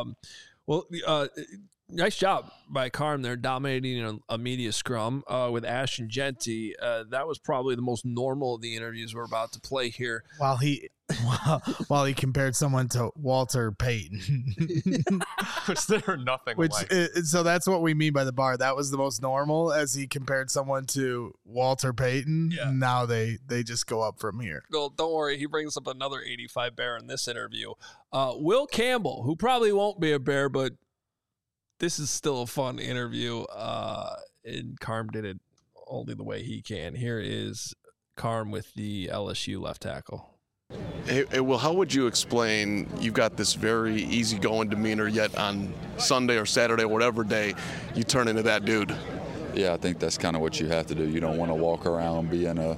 Nice job by Carm there, dominating a media scrum with Ashton Jeanty. That was probably the most normal of the interviews we're about to play here. While he compared someone to Walter Payton. Was there nothing Which like so that's what we mean by the bar. That was the most normal as he compared someone to Walter Payton. Yeah. Now they just go up from here. Well, don't worry. He brings up another 85 Bear in this interview. Will Campbell, who probably won't be a Bear, but this is still a fun interview. And Carm did it only the way he can. Here is Carm with the LSU left tackle. Hey, Will, how would you explain you've got this very easygoing demeanor, yet on Sunday or Saturday or whatever day, you turn into that dude? Yeah, I think that's kind of what you have to do. You don't want to walk around being a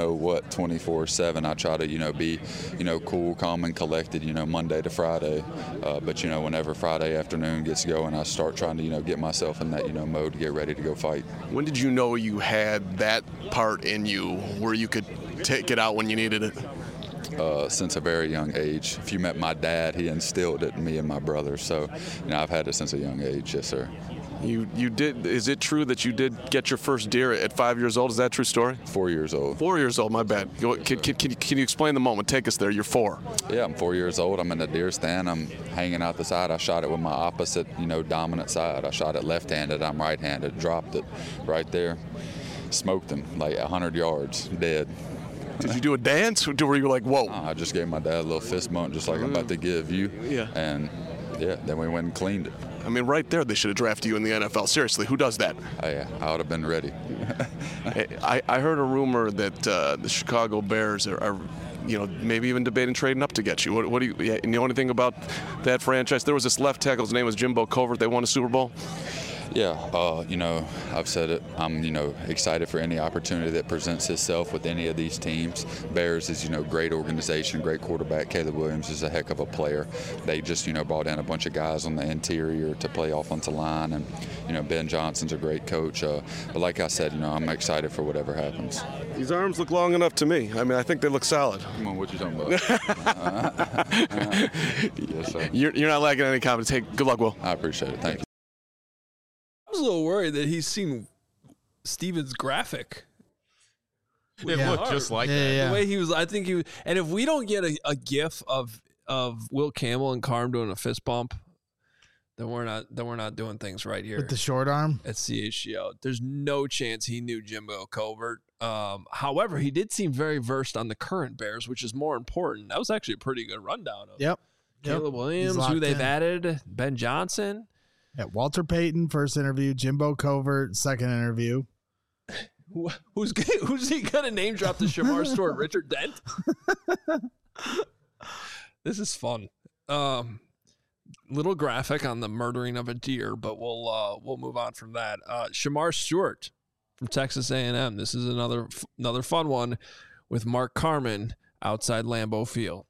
24/7. I try to, be, cool, calm, and collected, Monday to Friday. But, whenever Friday afternoon gets going, I start trying to, get myself in that, mode to get ready to go fight. When did you know you had that part in you where you could take it out when you needed it? Since a very young age. If you met my dad, he instilled it in me and my brother. So, I've had it since a young age, yes, sir. You did. Is it true that you did get your first deer at 5 years old? Is that a true story? 4 years old. 4 years old. My bad. Can you explain the moment? Take us there. You're 4. Yeah, I'm 4 years old. I'm in the deer stand. I'm hanging out the side. I shot it with my opposite, dominant side. I shot it left-handed. I'm right-handed. Dropped it right there. Smoked him like 100 yards, dead. Did you do a dance? Or were you like, whoa? I just gave my dad a little fist bump, just like I'm about to give you. Yeah. And yeah, then we went and cleaned it. I mean, right there, they should have drafted you in the NFL. Seriously, who does that? I would have been ready. I heard a rumor that the Chicago Bears are maybe even debating trading up to get you. What do you know anything about that franchise? There was this left tackle. His name was Jimbo Covert. They won a Super Bowl. Yeah, I've said it. I'm, excited for any opportunity that presents itself with any of these teams. Bears is, great organization, great quarterback. Caleb Williams is a heck of a player. They just, brought in a bunch of guys on the interior to play offensive line, and Ben Johnson's a great coach. But like I said, I'm excited for whatever happens. These arms look long enough to me. I mean, I think they look solid. Come on, what you talking about? Yes, sir. You're not lacking any confidence. Hey, good luck, Will. I appreciate it. Thank you. I was a little worried that he's seen Steven's graphic. it looked just like that. Yeah. The way he was, I think he was, and if we don't get a gif of Will Campbell and Carm doing a fist bump, then we're not doing things right here With the short arm? at CHGO. There's no chance he knew Jimbo Covert. However, he did seem very versed on the current Bears, which is more important. That was actually a pretty good rundown of Yep. Caleb Williams, He's who locked they've in. added, Ben Johnson. Yeah, Walter Payton, first interview. Jimbo Covert, second interview. Who's he gonna name drop the Shamar Stewart? Richard Dent. This is fun. Little graphic on the murdering of a deer, but we'll move on from that. Shamar Stewart from Texas A&M. This is another fun one with Mark Carman outside Lambeau Field.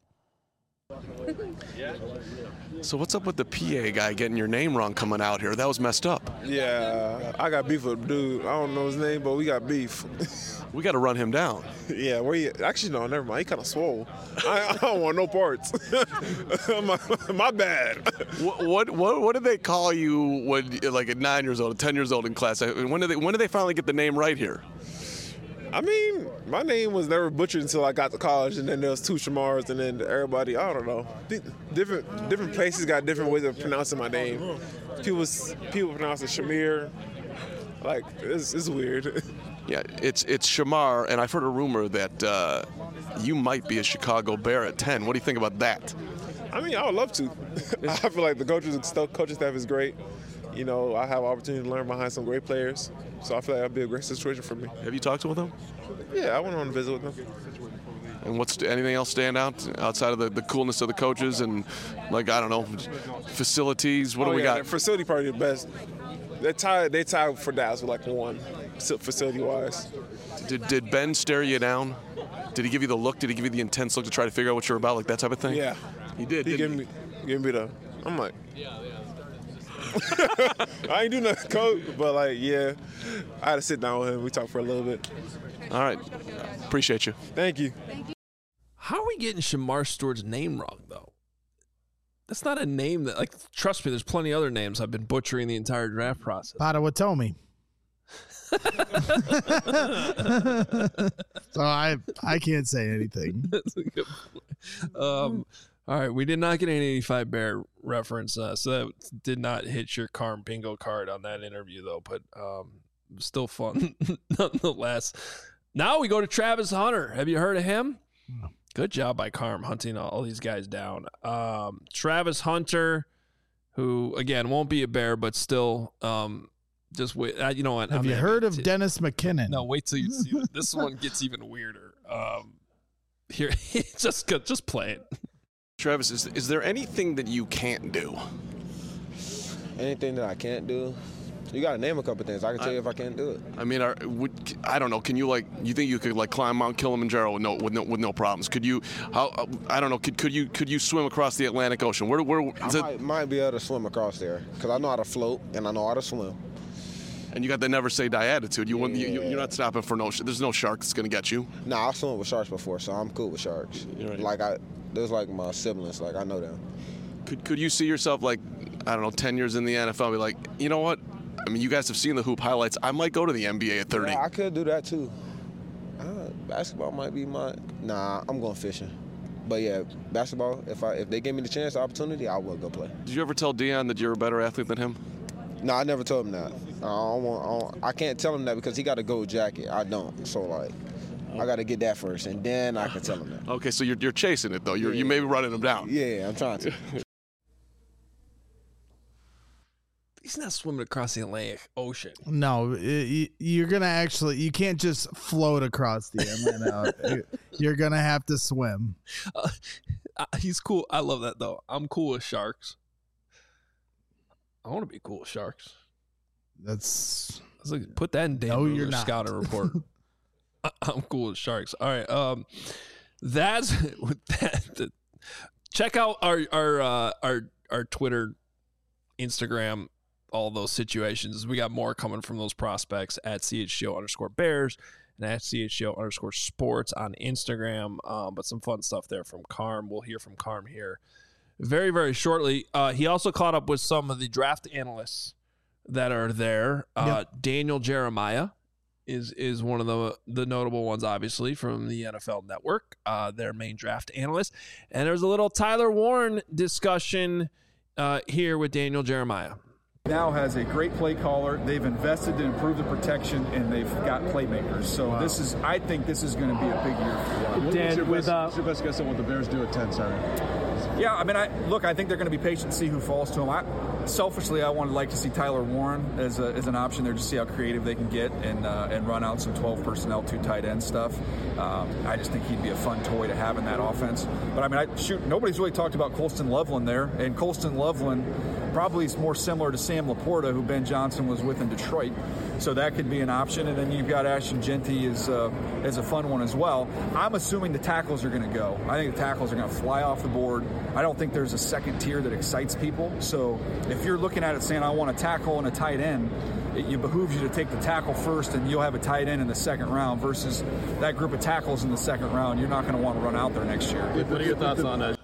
So what's up with the PA guy getting your name wrong coming out here? That was messed up. Yeah, I got beef with a dude. I don't know his name, but we got beef. We got to run him down. Yeah, where you? Actually, no, never mind. He kind of swole. I don't want no parts. my bad. What did they call you when, like, at 9 years old, 10 years old in class? When did they finally get the name right here? I mean, my name was never butchered until I got to college, and then there was two Shamars, and then everybody, I don't know. Different places got different ways of pronouncing my name. People pronounce it Shamir. Like, it's weird. Yeah, it's Shamar, and I've heard a rumor that you might be a Chicago Bear at 10. What do you think about that? I mean, I would love to. I feel like the coaching staff is great. You know, I have an opportunity to learn behind some great players, so I feel like that'd be a great situation for me. Have you talked with them? Yeah, I went on a visit with them. And anything else stand out outside of the coolness of the coaches and, like, I don't know, facilities? What do we got? The facility probably the best. They tied for Dallas with like one facility-wise. Did Ben stare you down? Did he give you the look? Did he give you the intense look to try to figure out what you're about, like that type of thing? Yeah, he did. He gave me the. I'm like, I ain't do nothing, coach, but like, yeah, I had to sit down with him. We talked for a little bit. All right, appreciate you. Thank you. How are we getting Shamar Stewart's name wrong, though? That's not a name that, like, trust me, there's plenty of other names I've been butchering the entire draft process. Potawatomi. So I can't say anything. That's a good point. All right, we did not get an 85 Bear reference, so that did not hit your Carm bingo card on that interview, though, but still fun nonetheless. Now we go to Travis Hunter. Have you heard of him? No. Good job by Carm hunting all these guys down. Travis Hunter, who, again, won't be a Bear, but still just wait. You know what? Have you heard of Dennis McKinnon? No, wait till you see this. This one gets even weirder. Here, just play it. Travis, is there anything that you can't do? Anything that I can't do? You got to name a couple things. I can tell you if I can't do it. I mean, I don't know. Can you you think you could climb Mount Kilimanjaro with no problems? Could you? I don't know. Could you swim across the Atlantic Ocean? I might be able to swim across there because I know how to float and I know how to swim. And you got the never say die attitude. You're not stopping for no. There's no shark that's gonna get you. Nah, I've swum with sharks before, so I'm cool with sharks. Right. There's my siblings. I know them. Could you see yourself I don't know, 10 years in the NFL, be like, you know what? I mean, you guys have seen the hoop highlights. I might go to the NBA at 30. Yeah, I could do that too. Basketball might be Nah, I'm going fishing. But yeah, basketball. If they gave me the chance, the opportunity, I would go play. Did you ever tell Deion that you're a better athlete than him? No, I never told him that. I can't tell him that because he got a gold jacket. I don't. So I got to get that first, and then I can tell him that. Okay, so you're chasing it though. You may be running him down. Yeah, I'm trying to. He's not swimming across the Atlantic Ocean. No, you're going to actually, you can't just float across the Atlantic. You're going to have to swim. He's cool. I love that, though. I'm cool with sharks. I want to be cool with sharks. That's put that in Dan you're not. scouting report. I'm cool with sharks. All right. That's that. Check out our Twitter, Instagram, all those situations. We got more coming from those prospects at CHGO_Bears and at CHGO_Sports on Instagram. But some fun stuff there from Carm. We'll hear from Carm here very, very shortly. He also caught up with some of the draft analysts that are there. Yep. Daniel Jeremiah is one of the notable ones, obviously, from the NFL Network, their main draft analyst. And there's a little Tyler Warren discussion here with Daniel Jeremiah. Now has a great play caller. They've invested to improve the protection, and they've got playmakers. So I think this is going to be a big year for them. Dan, what's your best guess on what the Bears do at 10 Saturday? Yeah, I mean, I think they're going to be patient and see who falls to them. Selfishly, I would like to see Tyler Warren as an option there, just see how creative they can get and run out some 12 personnel, 2 tight end stuff. I just think he'd be a fun toy to have in that offense. But I mean, nobody's really talked about Colston Loveland there, and Colston Loveland probably is more similar to Sam Laporta, who Ben Johnson was with in Detroit. So that could be an option. And then you've got Ashton Jeanty as a fun one as well. I'm assuming the tackles are going to go. I think the tackles are going to fly off the board. I don't think there's a second tier that excites people. So if you're looking at it saying, I want a tackle and a tight end, it behooves you to take the tackle first, and you'll have a tight end in the second round versus that group of tackles in the second round. You're not going to want to run out there next year. What are your thoughts on that?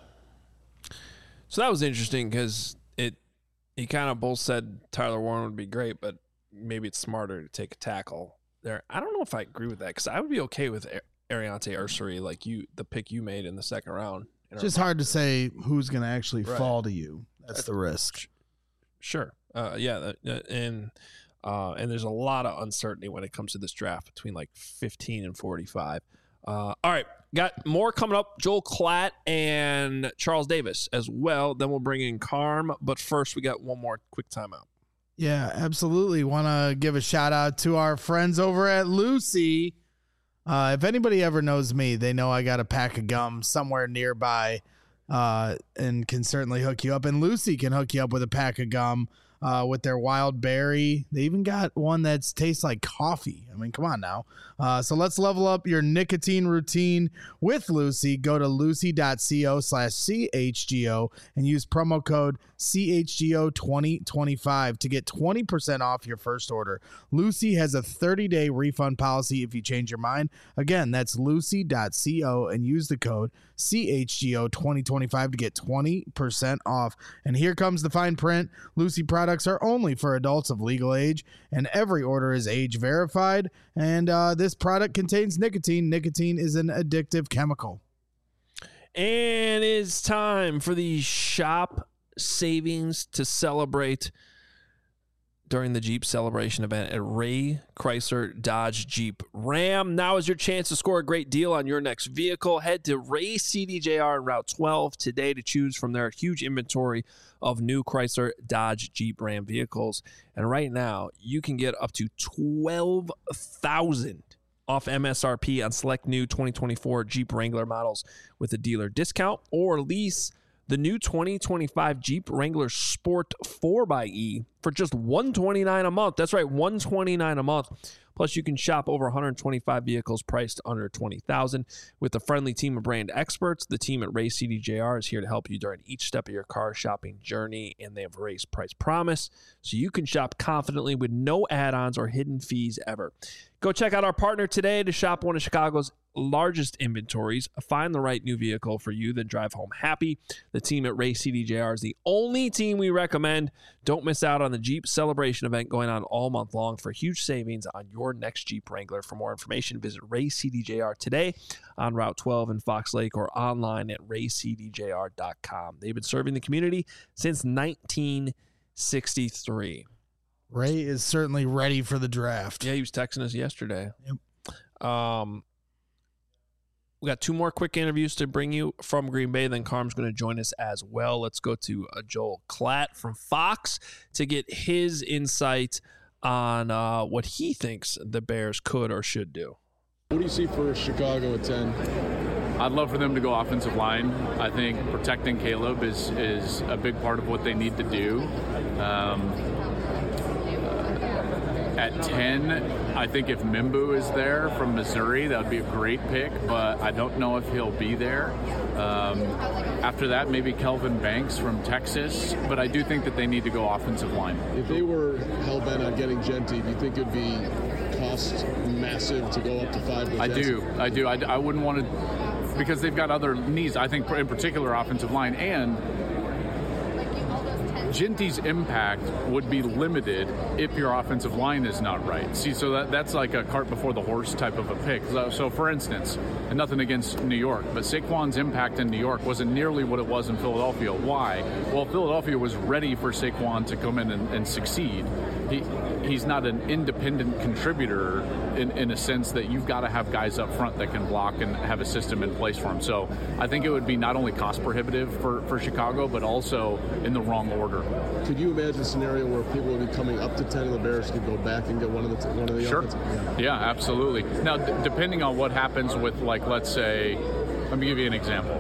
So that was interesting because he kind of both said Tyler Warren would be great, but maybe it's smarter to take a tackle there. I don't know if I agree with that because I would be okay with Ariante Ursary, the pick you made in the second round. It's just hard to say who's going to actually fall to you. That's the risk. Sure. Yeah. And And there's a lot of uncertainty when it comes to this draft between like 15 and 45. All right, got more coming up. Joel Klatt and Charles Davis as well. Then we'll bring in Carm. But first, we got one more quick timeout. Yeah, absolutely. Want to give a shout out to our friends over at Lucy. If anybody ever knows me, they know I got a pack of gum somewhere nearby and can certainly hook you up. And Lucy can hook you up with a pack of gum with their wild berry. They even got one that tastes like coffee. I mean, come on now. So let's level up your nicotine routine with Lucy. Go to lucy.co/CHGO and use promo code CHGO2025 to get 20% off your first order. Lucy has a 30-day refund policy if you change your mind. Again, that's lucy.co and use the code CHGO2025 to get 20% off. And here comes the fine print. Lucy products are only for adults of legal age, and every order is age verified. And this product contains nicotine. Nicotine is an addictive chemical. And it's time for the shop savings to celebrate during the Jeep Celebration event at Ray Chrysler Dodge Jeep Ram. Now is your chance to score a great deal on your next vehicle. Head to Ray CDJR on Route 12 today to choose from their huge inventory of new Chrysler Dodge Jeep Ram vehicles. And right now, you can get up to $12,000 off MSRP on select new 2024 Jeep Wrangler models with a dealer discount, or lease the new 2025 Jeep Wrangler Sport 4xe for just $129 a month. That's right, $129 a month. Plus, you can shop over 125 vehicles priced under $20,000 with a friendly team of brand experts. The team at Ray CDJR is here to help you during each step of your car shopping journey, and they have a Ray's price promise, so you can shop confidently with no add-ons or hidden fees ever. Go check out our partner today to shop one of Chicago's largest inventories. Find the right new vehicle for you, then drive home happy. The team at Ray CDJR is the only team we recommend. Don't miss out on the Jeep Celebration event going on all month long for huge savings on your next Jeep Wrangler. For more information, visit Ray CDJR today on Route 12 in Fox Lake or online at raycdjr.com. They've been serving the community since 1963. Ray is certainly ready for the draft. Yeah, he was texting us yesterday. Yep. We got two more quick interviews to bring you from Green Bay. Then Carm's going to join us as well. Let's go to Joel Klatt from Fox to get his insight on what he thinks the Bears could or should do. What do you see for Chicago at 10? I'd love for them to go offensive line. I think protecting Caleb is a big part of what they need to do. At 10, I think if Mimbu is there from Missouri, that would be a great pick, but I don't know if he'll be there. After that, maybe Kelvin Banks from Texas, but I do think that they need to go offensive line. If they were hell-bent on getting Genty, do you think it would be cost massive to go up to 5? I do. I wouldn't want to, because they've got other needs, I think, in particular offensive line, and Genty's impact would be limited if your offensive line is not right. See, so that's like a cart before the horse type of a pick. So for instance, and nothing against New York, but Saquon's impact in New York wasn't nearly what it was in Philadelphia. Why? Well, Philadelphia was ready for Saquon to come in and succeed. He's not an independent contributor in a sense that you've got to have guys up front that can block and have a system in place for him. So I think it would be not only cost prohibitive for Chicago, but also in the wrong order. Could you imagine a scenario where people would be coming up to 10 and the Bears could go back and get one of the Sure. offensive? Yeah, absolutely. Now, depending on what happens with, like, let's say, let me give you an example.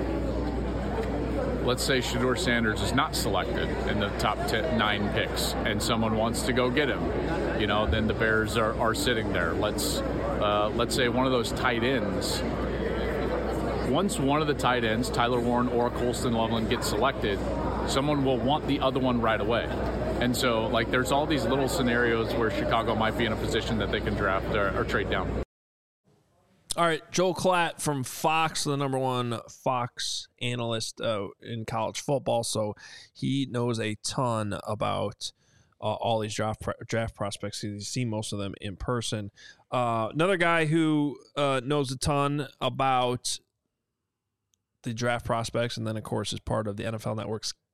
Let's say Shedeur Sanders is not selected in the top 9 picks and someone wants to go get him. Then the Bears are sitting there. Let's say one of those tight ends. Once one of the tight ends, Tyler Warren or Colston Loveland, gets selected, someone will want the other one right away. And so, there's all these little scenarios where Chicago might be in a position that they can draft or trade down. All right, Joel Klatt from Fox, the number one Fox analyst in college football. So he knows a ton about all these draft prospects. He's seen most of them in person. Another guy who knows a ton about the draft prospects, and then, of course, is part of the NFL Network's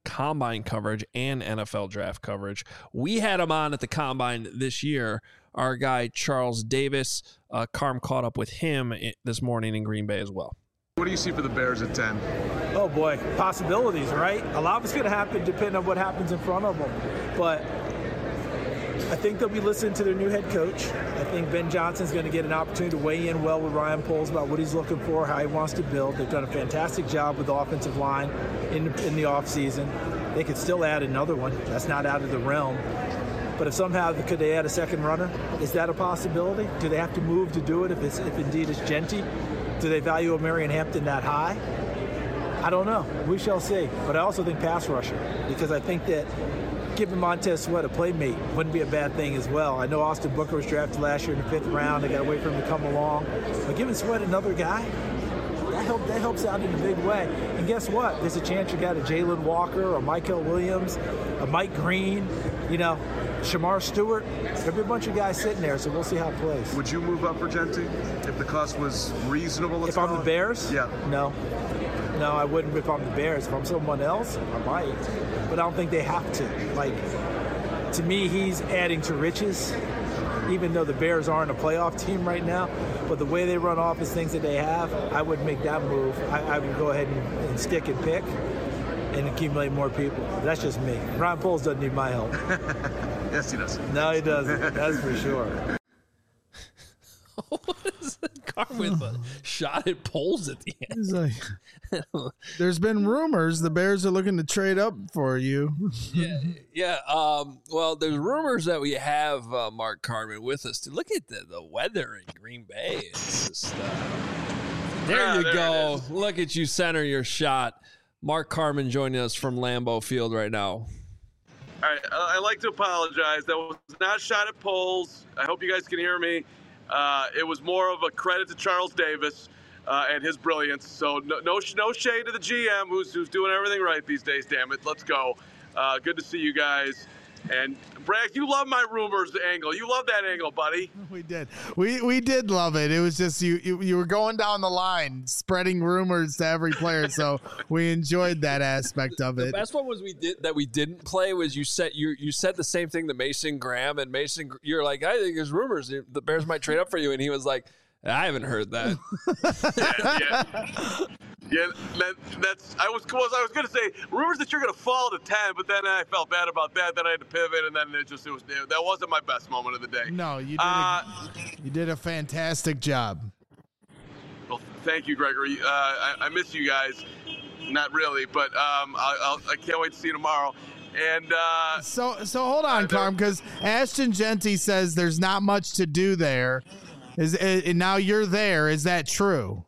Combine coverage and NFL draft coverage. We had him on at the Combine this year, our guy Charles Davis. Carm caught up with him this morning in Green Bay as well. What do you see for the Bears at 10? Oh, boy. Possibilities, right? A lot of it's going to happen depending on what happens in front of them. But I think they'll be listening to their new head coach. I think Ben Johnson's going to get an opportunity to weigh in well with Ryan Poles about what he's looking for, how he wants to build. They've done a fantastic job with the offensive line in the offseason. They could still add another one. That's not out of the realm. But if somehow could they add a second runner? Is that a possibility? Do they have to move to do it if indeed it's Genty? Do they value Marion Hampton that high? I don't know. We shall see. But I also think pass rusher, because I think that giving Montez Sweat a playmate wouldn't be a bad thing as well. I know Austin Booker was drafted last year in the 5th round. They got to wait for him to come along. But giving Sweat another guy, that helps out in a big way. And guess what? There's a chance you got a Jalen Walker, a Michael Williams, a Mike Green, Shamar Stewart. There'll be a bunch of guys sitting there, so we'll see how it plays. Would you move up for Genty if the cost was reasonable? If I'm the Bears? Yeah. No, I wouldn't if I'm the Bears. If I'm someone else, I might. But I don't think they have to. To me, he's adding to riches, even though the Bears aren't a playoff team right now. But the way they run offense, things that they have, I wouldn't make that move. I would go ahead and stick and pick and accumulate more people. That's just me. Ryan Poles doesn't need my help. Yes, he does. No, he doesn't. That's for sure. What is that car with a shot at Poles at the end? He's like, there's been rumors the Bears are looking to trade up for you. Yeah. Well, there's rumors that we have Mark Carman with us. Look at the weather in Green Bay. It's just, there you go. Look at you center your shot. Mark Carman joining us from Lambeau Field right now. All right, I'd like to apologize. That was not a shot at Poles. I hope you guys can hear me. It was more of a credit to Charles Davis and his brilliance. So no shade to the GM who's doing everything right these days. Damn it, let's go. Good to see you guys. And Bragg, you love my rumors angle. You love that angle, buddy. We did. We did love it. It was just you were going down the line, spreading rumors to every player. So we enjoyed that aspect of it. The best one was we didn't play was you said the same thing to Mason Graham, and Mason, you're like, I think there's rumors the Bears might trade up for you, and he was like, I haven't heard that. Yeah, I was going to say rumors that you're going to fall to 10, but then I felt bad about that. Then I had to pivot, and then that wasn't my best moment of the day. No, you did a fantastic job. Well, thank you, Gregory. I miss you guys. Not really, but I can't wait to see you tomorrow. And so hold on, Carm, because Ashton Genty says there's not much to do there. And now you're there. Is that true?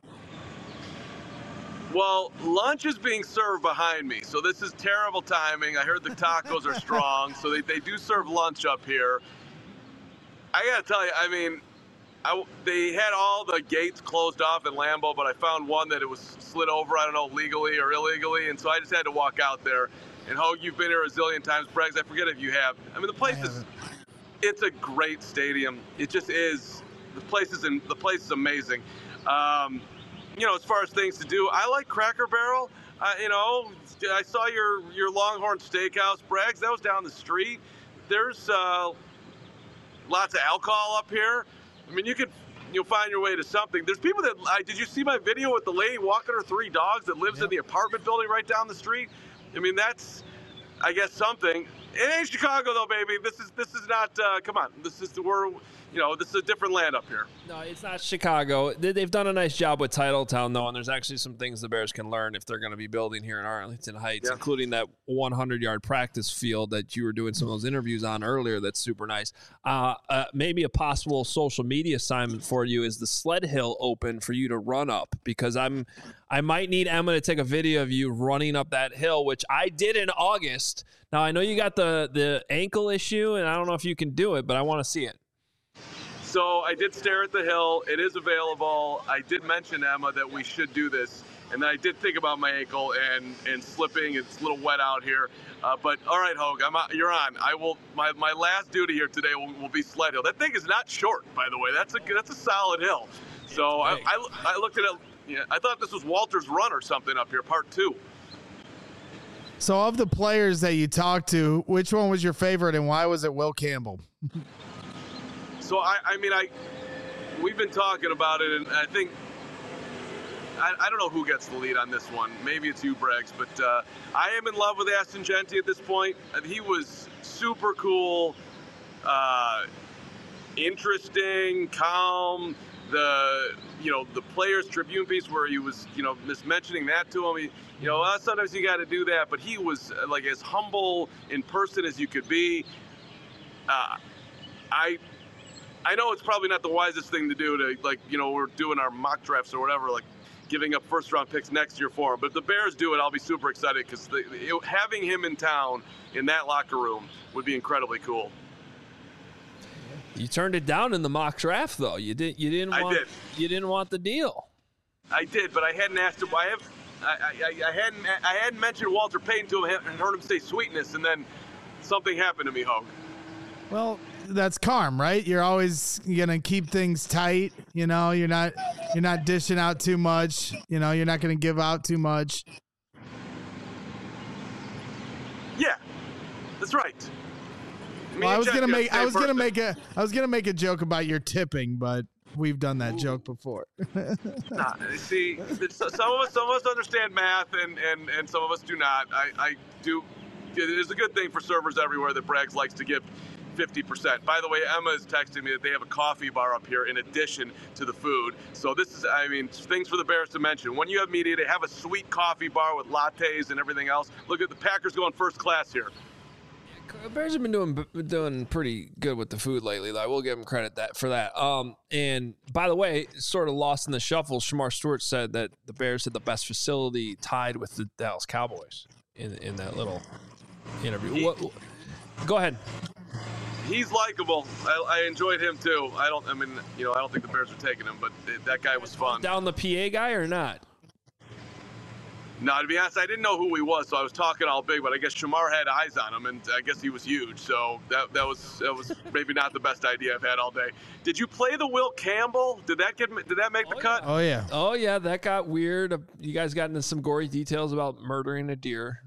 Well, lunch is being served behind me, so this is terrible timing. I heard the tacos are strong, so they do serve lunch up here. I got to tell you, I mean, they had all the gates closed off in Lambeau, but I found one that it was slid over, I don't know, legally or illegally, and so I just had to walk out there. And Hogue, you've been here a zillion times. Braggs, I forget if you have. I mean, the place it's a great stadium. It just is. The place is amazing. As far as things to do, I like Cracker Barrel. I saw your Longhorn Steakhouse, Braggs. That was down the street. There's lots of alcohol up here. I mean, you'll find your way to something. There's people that did you see my video with the lady walking her 3 dogs that lives in the apartment building right down the street? I mean, that's, I guess, something. It ain't Chicago though, baby. This is not. Come on, this is this is a different land up here. No, it's not Chicago. They've done a nice job with Titletown though, and there's actually some things the Bears can learn if they're going to be building here in Arlington Heights, including that 100-yard practice field that you were doing some of those interviews on earlier. That's super nice. Maybe a possible social media assignment for you is the sled hill open for you to run up, because I might need Emma to take a video of you running up that hill, which I did in August. Now, I know you got the ankle issue, and I don't know if you can do it, but I want to see it. So I did stare at the hill. It is available. I did mention, Emma, that we should do this. And then I did think about my ankle and slipping. It's a little wet out here. But all right, Hogue, you're on. I will. My last duty here today will be sled hill. That thing is not short, by the way. That's a solid hill. So I looked at it. Yeah, I thought this was Walter's Run or something up here, part 2. So of the players that you talked to, which one was your favorite and why was it Will Campbell? So, we've been talking about it, and I think, I don't know who gets the lead on this one. Maybe it's you, Braggs, but I am in love with Ashton Jeanty at this point. He was super cool, interesting, calm. The Players Tribune piece where he was, mentioning that to him. Sometimes you got to do that, but he was like as humble in person as you could be. I know it's probably not the wisest thing to do to we're doing our mock drafts or whatever, like giving up first round picks next year for him. But if the Bears do it, I'll be super excited because having him in town in that locker room would be incredibly cool. You turned it down in the mock draft, though. You didn't want the deal. I did, but I hadn't asked him. I hadn't mentioned Walter Payton to him and heard him say sweetness, and then something happened to me, Hogue. Well, that's Carm, right? You're always gonna keep things tight. You're not dishing out too much. You're not gonna give out too much. Yeah, that's right. Well, I was gonna make a joke about your tipping, but we've done that joke before. See, some of us understand math, and some of us do not. I do. It is a good thing for servers everywhere that Braggs likes to give 50%. By the way, Emma is texting me that they have a coffee bar up here in addition to the food. So this is, things for the Bears to mention. When you have media, they have a sweet coffee bar with lattes and everything else. Look at the Packers going first class here. Bears have been doing pretty good with the food lately. I will give them credit for that. And by the way, sort of lost in the shuffle, Shamar Stewart said that the Bears had the best facility tied with the Dallas Cowboys in that little interview. Go ahead. He's likable. I enjoyed him too. I don't think the Bears are taking him, but that guy was fun. Down the PA guy or not? No, to be honest, I didn't know who he was, so I was talking all big. But I guess Shamar had eyes on him, and I guess he was huge. So that was maybe not the best idea I've had all day. Did you play the Will Campbell? Did that make the cut? Oh yeah. Oh yeah, that got weird. You guys got into some gory details about murdering a deer.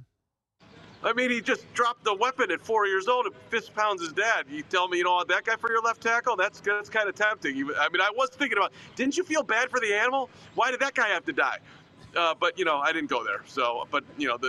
He just dropped the weapon at 4 years old and fist pounds his dad. You tell me you don't want that guy for your left tackle? That's kind of tempting. I was thinking about, didn't you feel bad for the animal? Why did that guy have to die? But I didn't go there. So, but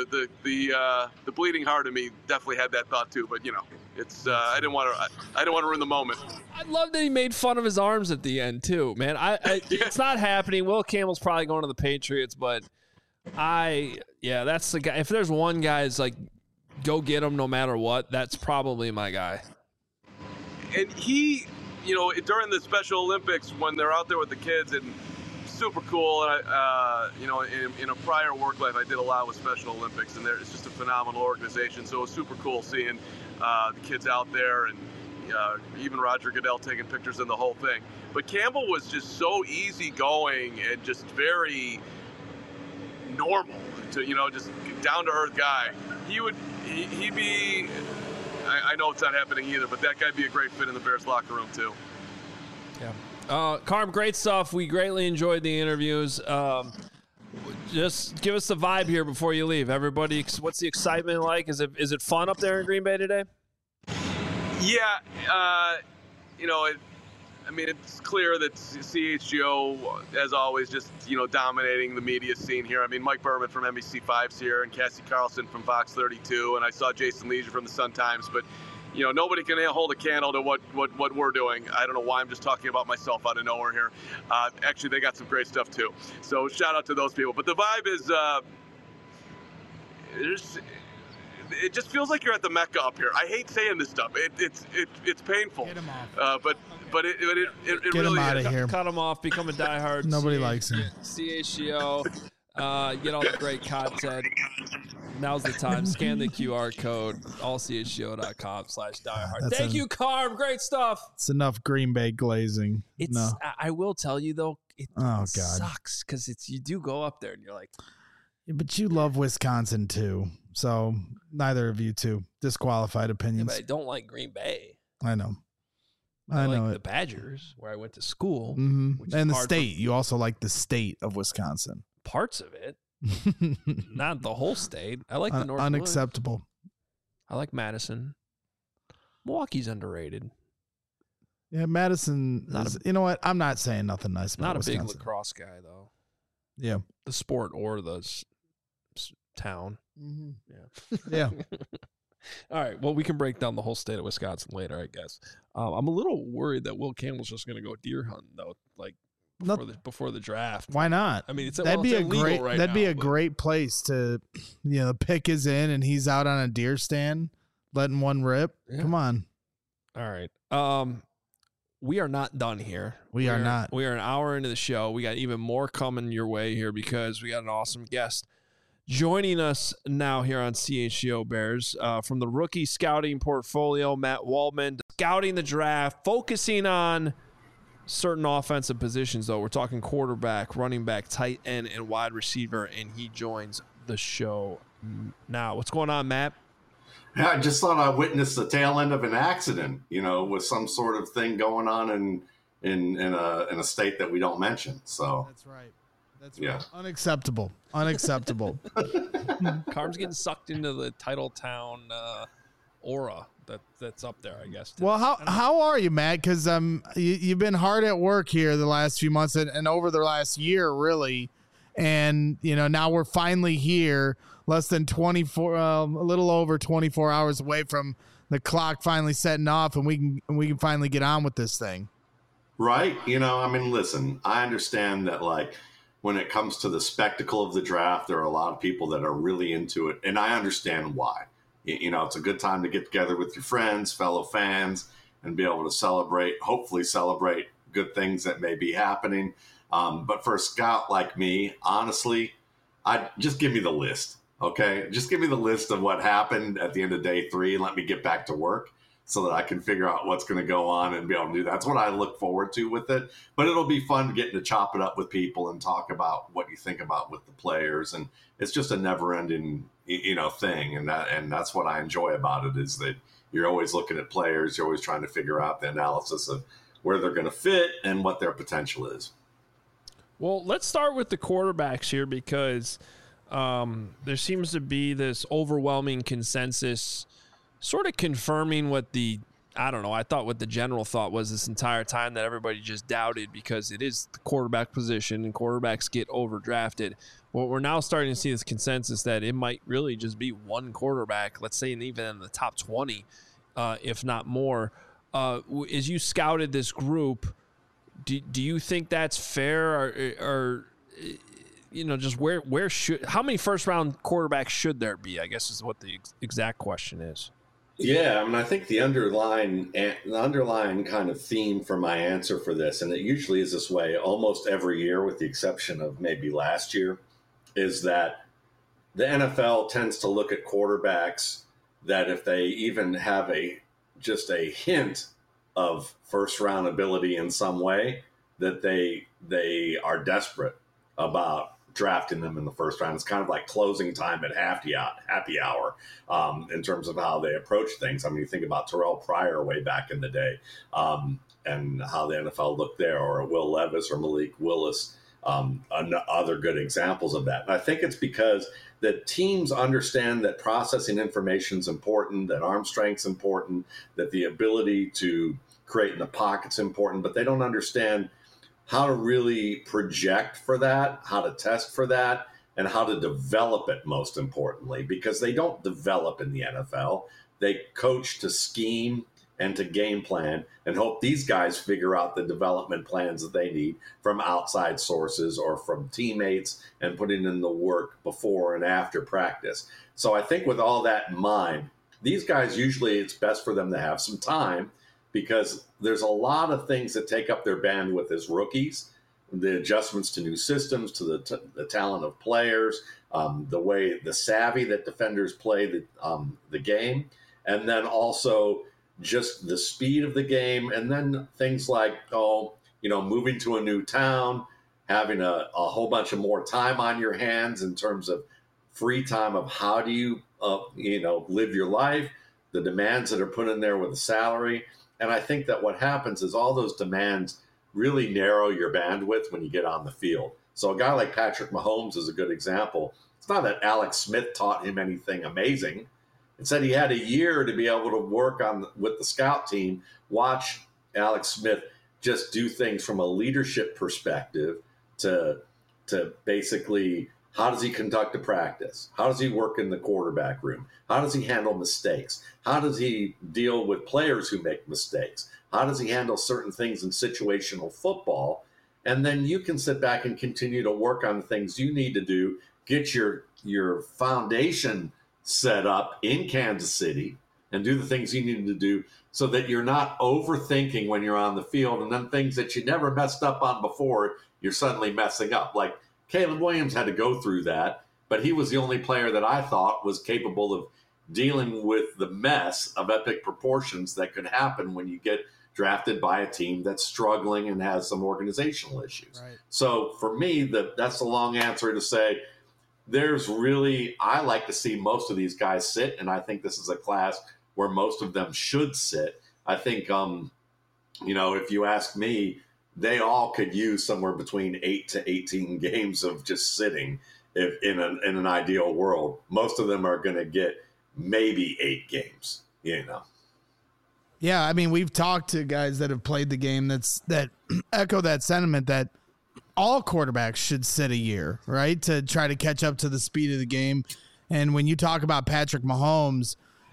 the bleeding heart in me definitely had that thought too. But it's I didn't want to ruin the moment. I love that he made fun of his arms at the end too, man. It's not happening. Will Campbell's probably going to the Patriots, but that's the guy. If there's one guy that's like, go get him no matter what, that's probably my guy. And he, during the Special Olympics when they're out there with the kids, and super cool. And in a prior work life, I did a lot with Special Olympics, and it's just a phenomenal organization. So it was super cool seeing the kids out there, and even Roger Goodell taking pictures and the whole thing. But Campbell was just so easygoing and just very normal, just down to earth guy. He'd be. I know it's not happening either, but that guy'd be a great fit in the Bears locker room too. Yeah. Carm, great stuff. We greatly enjoyed the interviews. Just give us the vibe here before you leave. Everybody, what's the excitement like? Is it fun up there in Green Bay today? Yeah. It's clear that CHGO, as always, just, dominating the media scene here. Mike Berman from NBC5's here, and Cassie Carlson from Fox 32, and I saw Jason Leisure from the Sun-Times, but nobody can hold a candle to what we're doing. I don't know why I'm just talking about myself out of nowhere here. Actually, they got some great stuff too. So shout out to those people. But the vibe is, it just feels like you're at the Mecca up here. I hate saying this stuff. It's painful. Get him off. But it Get really him out is. of here. Cut him off. Become a diehard. Nobody likes him. CHGO. Get all the great content. Now's the time. Scan the QR code. allchgo.com/diehard. Thank you, Carm. Great stuff. It's enough Green Bay glazing. I will tell you though, it God. sucks because you do go up there and you're like, yeah, but you love Wisconsin too. So neither of you two disqualified opinions. Yeah, but I don't like Green Bay. I know. I know like it. the Badgers, where I went to school. Mm-hmm. Which and is the state. You also like the state of Wisconsin. Parts of it. Not the whole state. I like the North. Unacceptable. I like Madison. Milwaukee's underrated. Yeah, Madison. You know what? I'm not saying nothing nice about Wisconsin. Big lacrosse guy though. Yeah, the sport or the town. Mm-hmm. Yeah. All right. Well, we can break down the whole state of Wisconsin later, I guess. I'm a little worried that Will Campbell's just going to go deer hunting though, like before the draft. Why not? I mean, that'd be a great place to, pick is in and he's out on a deer stand, letting one rip. Yeah. Come on. All right. We are not done here. We are not. We are an hour into the show. We got even more coming your way here because we got an awesome guest joining us now here on CHGO Bears from the rookie scouting portfolio, Matt Waldman, scouting the draft, focusing on certain offensive positions, though. We're talking quarterback, running back, tight end, and wide receiver, and he joins the show now. What's going on, Matt? Yeah, I just thought I witnessed the tail end of an accident, with some sort of thing going on in a state that we don't mention. So that's right. Right. Unacceptable. Unacceptable. Carm's getting sucked into the Titletown aura that's up there, I guess. Well, how are you, Matt? Because you've been hard at work here the last few months and over the last year, really. And now we're finally here, less than 24, a little over 24 hours away from the clock finally setting off, and we can finally get on with this thing. Right. Listen, I understand that, when it comes to the spectacle of the draft, there are a lot of people that are really into it, and I understand why. It's a good time to get together with your friends, fellow fans, and be able to hopefully celebrate good things that may be happening. But for a scout like me, honestly, just give me the list, okay? Just give me the list of what happened at the end of day 3 and let me get back to work so that I can figure out what's going to go on and be able to do that. That's what I look forward to with it. But it'll be fun getting to chop it up with people and talk about what you think about with the players. And it's just a never-ending, thing. And that's what I enjoy about it, is that you're always looking at players. You're always trying to figure out the analysis of where they're going to fit and what their potential is. Well, let's start with the quarterbacks here because there seems to be this overwhelming consensus sort of confirming what I thought what the general thought was this entire time, that everybody just doubted, because it is the quarterback position and quarterbacks get overdrafted. Well, we're now starting to see this consensus that it might really just be one quarterback, let's say even in the top 20, if not more. As you scouted this group, do you think that's fair, or just how many first round quarterbacks should there be, I guess is what the exact question is. Yeah, I think the underlying kind of theme for my answer for this, and it usually is this way almost every year with the exception of maybe last year, is that the NFL tends to look at quarterbacks that if they even have just a hint of first round ability in some way, that they are desperate about drafting them in the first round. It's kind of like closing time at happy hour in terms of how they approach things. You think about Terrell Pryor way back in the day and how the NFL looked there, or Will Levis or Malik Willis, other good examples of that. And I think it's because the teams understand that processing information is important, that arm strength's important, that the ability to create in the pocket's important, but they don't understand how to really project for that, how to test for that, and how to develop it, most importantly, because they don't develop in the NFL. They coach to scheme and to game plan and hope these guys figure out the development plans that they need from outside sources or from teammates and putting in the work before and after practice. So I think with all that in mind, these guys, usually it's best for them to have some time, because there's a lot of things that take up their bandwidth as rookies, the adjustments to new systems, to the talent of players, the savvy that defenders play the game, and then also just the speed of the game, and then things like, moving to a new town, having a whole bunch of more time on your hands in terms of free time of how do you, live your life, the demands that are put in there with the salary. And I think that what happens is all those demands really narrow your bandwidth when you get on the field. So a guy like Patrick Mahomes is a good example. It's not that Alex Smith taught him anything amazing. It said he had a year to be able to work with the scout team, watch Alex Smith just do things from a leadership perspective to basically how does he conduct a practice? How does he work in the quarterback room? How does he handle mistakes? How does he deal with players who make mistakes? How does he handle certain things in situational football? And then you can sit back and continue to work on the things you need to do, get your foundation set up in Kansas City and do the things you need to do so that you're not overthinking when you're on the field, and then things that you never messed up on before, you're suddenly messing up. Like Caleb Williams had to go through that, but he was the only player that I thought was capable of dealing with the mess of epic proportions that could happen when you get drafted by a team that's struggling and has some organizational issues. Right. So for me, that's the long answer to say, I like to see most of these guys sit, and I think this is a class where most of them should sit. I think, if you ask me, they all could use somewhere between 8 to 18 games of just sitting if in an ideal world. Most of them are going to get maybe 8 games, Yeah, I mean, we've talked to guys that have played the game that echo that sentiment that all quarterbacks should sit a year, right, to try to catch up to the speed of the game. And when you talk about Patrick Mahomes,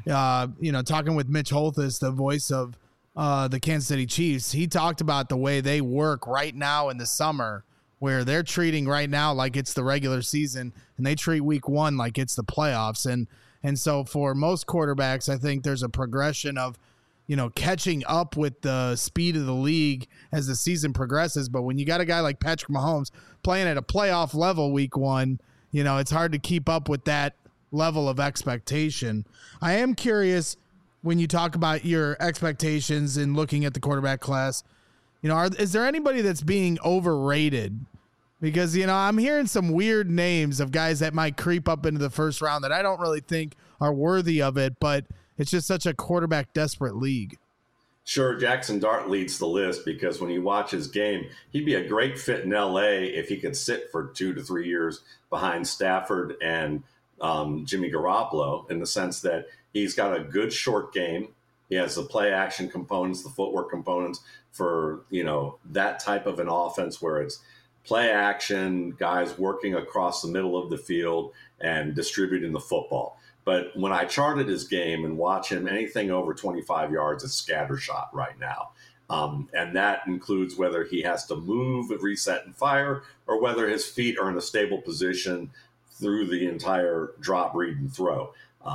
talking with Mitch Holthus, the voice of the Kansas City Chiefs, he talked about the way they work right now in the summer, where they're treating right now like it's the regular season, and they treat week 1 like it's the playoffs. And so for most quarterbacks, I think there's a progression of, catching up with the speed of the league as the season progresses. But when you got a guy like Patrick Mahomes playing at a playoff level week 1, it's hard to keep up with that level of expectation. I am curious, when you talk about your expectations and looking at the quarterback class, is there anybody that's being overrated? Because, I'm hearing some weird names of guys that might creep up into the first round that I don't really think are worthy of it, but it's just such a quarterback desperate league. Sure, Jackson Dart leads the list because when you watch his game, he'd be a great fit in LA if he could sit for 2 to 3 years behind Stafford and Jimmy Garoppolo, in the sense that he's got a good short game. He has the play action components, the footwork components for, that type of an offense where it's play action, guys working across the middle of the field and distributing the football. But when I charted his game and watch him, anything over 25 yards is scattershot right now. And that includes whether he has to move, reset, and fire, or whether his feet are in a stable position through the entire drop, read, and throw.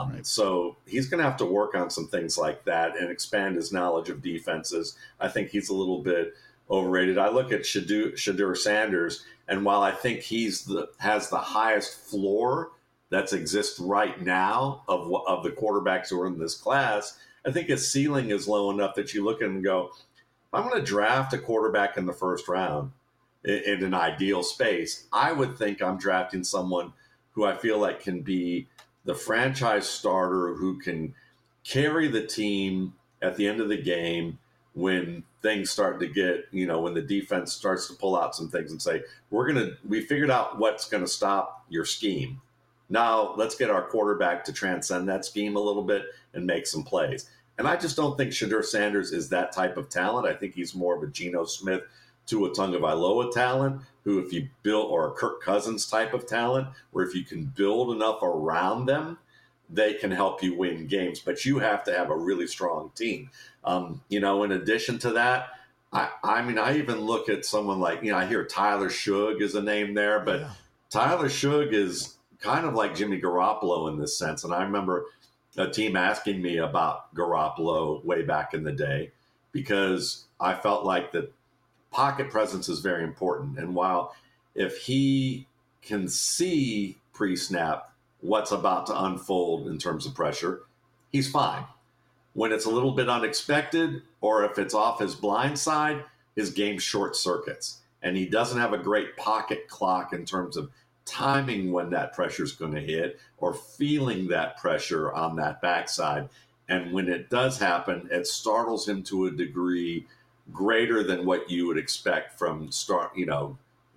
So he's going to have to work on some things like that and expand his knowledge of defenses. I think he's a little bit overrated. I look at Shedeur Sanders, and while I think has the highest floor that exists right now of the quarterbacks who are in this class, I think his ceiling is low enough that you look at him and go, I'm going to draft a quarterback in the first round in an ideal space. I would think I'm drafting someone who I feel like can be the franchise starter, who can carry the team at the end of the game when things start to get, when the defense starts to pull out some things and say, we figured out what's going to stop your scheme. Now let's get our quarterback to transcend that scheme a little bit and make some plays. And I just don't think Shedeur Sanders is that type of talent. I think he's more of a Geno Smith, Tua Tagovailoa talent, who if you build, or a Kirk Cousins type of talent, where if you can build enough around them, they can help you win games. But you have to have a really strong team. In addition to that, I even look at someone like, I hear Tyler Shugg is a name there, but Tyler Shugg is kind of like Jimmy Garoppolo in this sense. And I remember a team asking me about Garoppolo way back in the day, because I felt like the pocket presence is very important. And while if he can see pre-snap what's about to unfold in terms of pressure, he's fine. When it's a little bit unexpected, or if it's off his blind side, his game short circuits. And he doesn't have a great pocket clock in terms of timing when that pressure is going to hit, or feeling that pressure on that backside. And when it does happen, it startles him to a degree greater than what you would expect from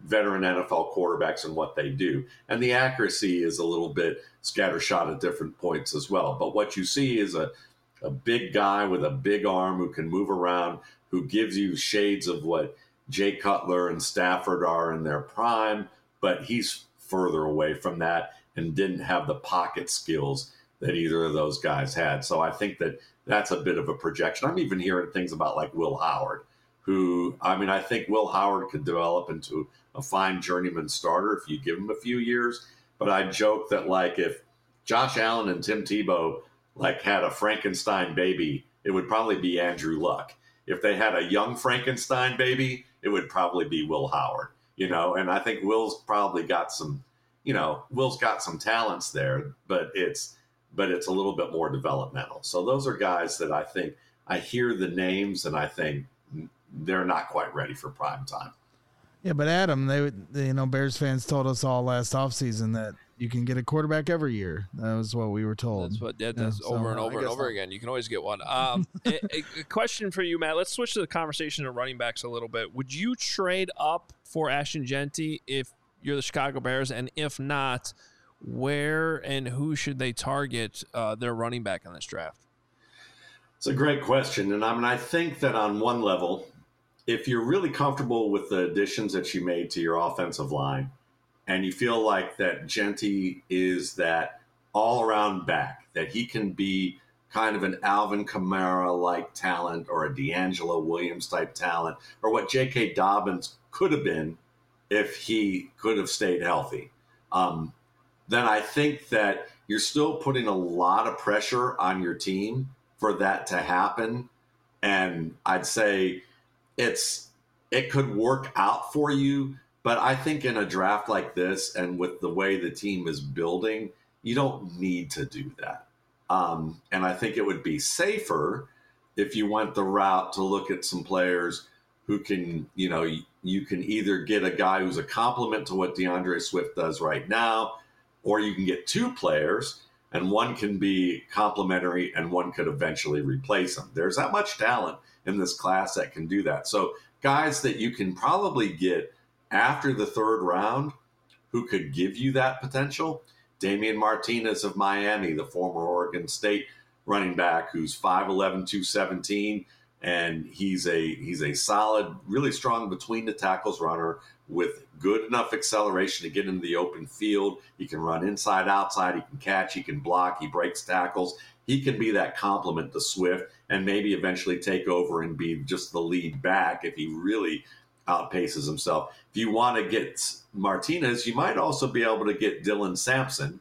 veteran NFL quarterbacks and what they do. And the accuracy is a little bit scattershot at different points as well. But what you see is a big guy with a big arm who can move around, who gives you shades of what Jay Cutler and Stafford are in their prime, but he's further away from that and didn't have the pocket skills that either of those guys had. So I think that that's a bit of a projection. I'm even hearing things about like Will Howard, who, I mean, I think Will Howard could develop into a fine journeyman starter if you give him a few years. But I joke that, like, if Josh Allen and Tim Tebow, like, had a Frankenstein baby, it would probably be Andrew Luck. If they had a young Frankenstein baby, it would probably be Will Howard, you know? And I think Will's probably got some, you know, Will's got some talents there, but it's a little bit more developmental. So those are guys that I think I hear the names and I think they're not quite ready for prime time. Yeah, but Adam, they Bears fans told us all last offseason that you can get a quarterback every year. That was what we were told. That's over and over again. You can always get one. A question for you, Matt. Let's switch to the conversation of running backs a little bit. Would you trade up for Ashton Jeanty if you're the Chicago Bears? And if not, where and who should they target their running back in this draft? It's a great question. And I mean, I think that on one level, if you're really comfortable with the additions that you made to your offensive line and you feel like that Jeanty is that all-around back, that he can be kind of an Alvin Kamara-like talent or a D'Angelo Williams-type talent or what J.K. Dobbins could have been if he could have stayed healthy, then I think that you're still putting a lot of pressure on your team for that to happen. And I'd say it could work out for you, but I think in a draft like this and with the way the team is building, you don't need to do that. And I think it would be safer if you went the route to look at some players who can, you know, you can either get a guy who's a complement to what DeAndre Swift does right now, or you can get two players and one can be complementary and one could eventually replace him. There's that much talent in this class that can do that. So guys that you can probably get after the third round who could give you that potential. Damian Martinez of Miami, the former Oregon State running back who's 5'11", 217, and he's a solid, really strong between the tackles runner with good enough acceleration to get into the open field. He can run inside, outside, he can catch, he can block, he breaks tackles. He can be that complement to Swift and maybe eventually take over and be just the lead back if he really outpaces himself. If you want to get Martinez, you might also be able to get Dylan Sampson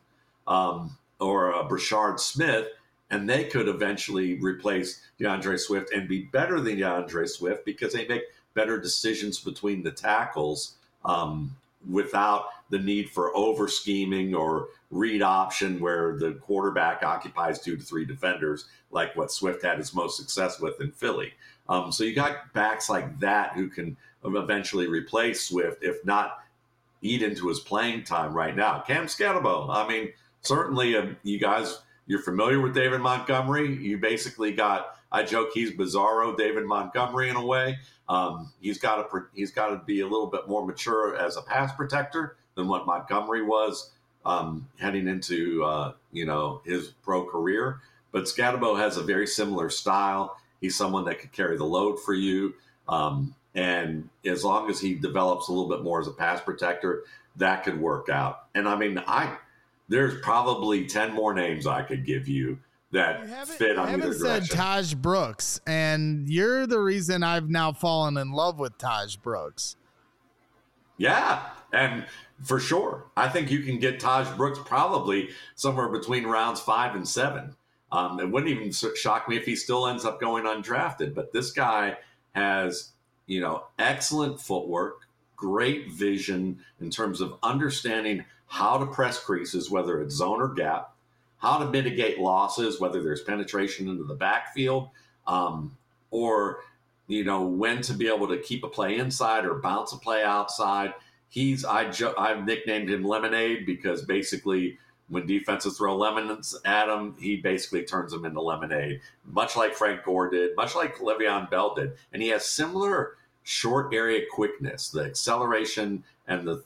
or Brashard Smith, and they could eventually replace DeAndre Swift and be better than DeAndre Swift because they make better decisions between the tackles without the need for over scheming or read option where the quarterback occupies 2 to 3 defenders like what Swift had his most success with in Philly. So you got backs like that who can eventually replace Swift, if not eat into his playing time right now. Cam Scatterbo, I mean, certainly you guys, you're familiar with David Montgomery. You basically got, I joke, he's Bizarro David Montgomery in a way. He's got to be a little bit more mature as a pass protector than what Montgomery was heading into his pro career. But Scatterbo has a very similar style. He's someone that could carry the load for you. And as long as he develops a little bit more as a pass protector, that could work out. And I mean, there's probably 10 more names I could give you that fit on either direction. I haven't said Taj Brooks, and you're the reason I've now fallen in love with Taj Brooks. Yeah, and for sure. I think you can get Taj Brooks probably somewhere between rounds 5 and 7. It wouldn't even shock me if he still ends up going undrafted. But this guy has, excellent footwork, great vision in terms of understanding how to press creases, whether it's zone or gap, how to mitigate losses, whether there's penetration into the backfield, or, when to be able to keep a play inside or bounce a play outside. I've nicknamed him Lemonade because basically when defenses throw lemons at him, he basically turns them into lemonade, much like Frank Gore did, much like Le'Veon Bell did. And he has similar short area quickness, the acceleration and the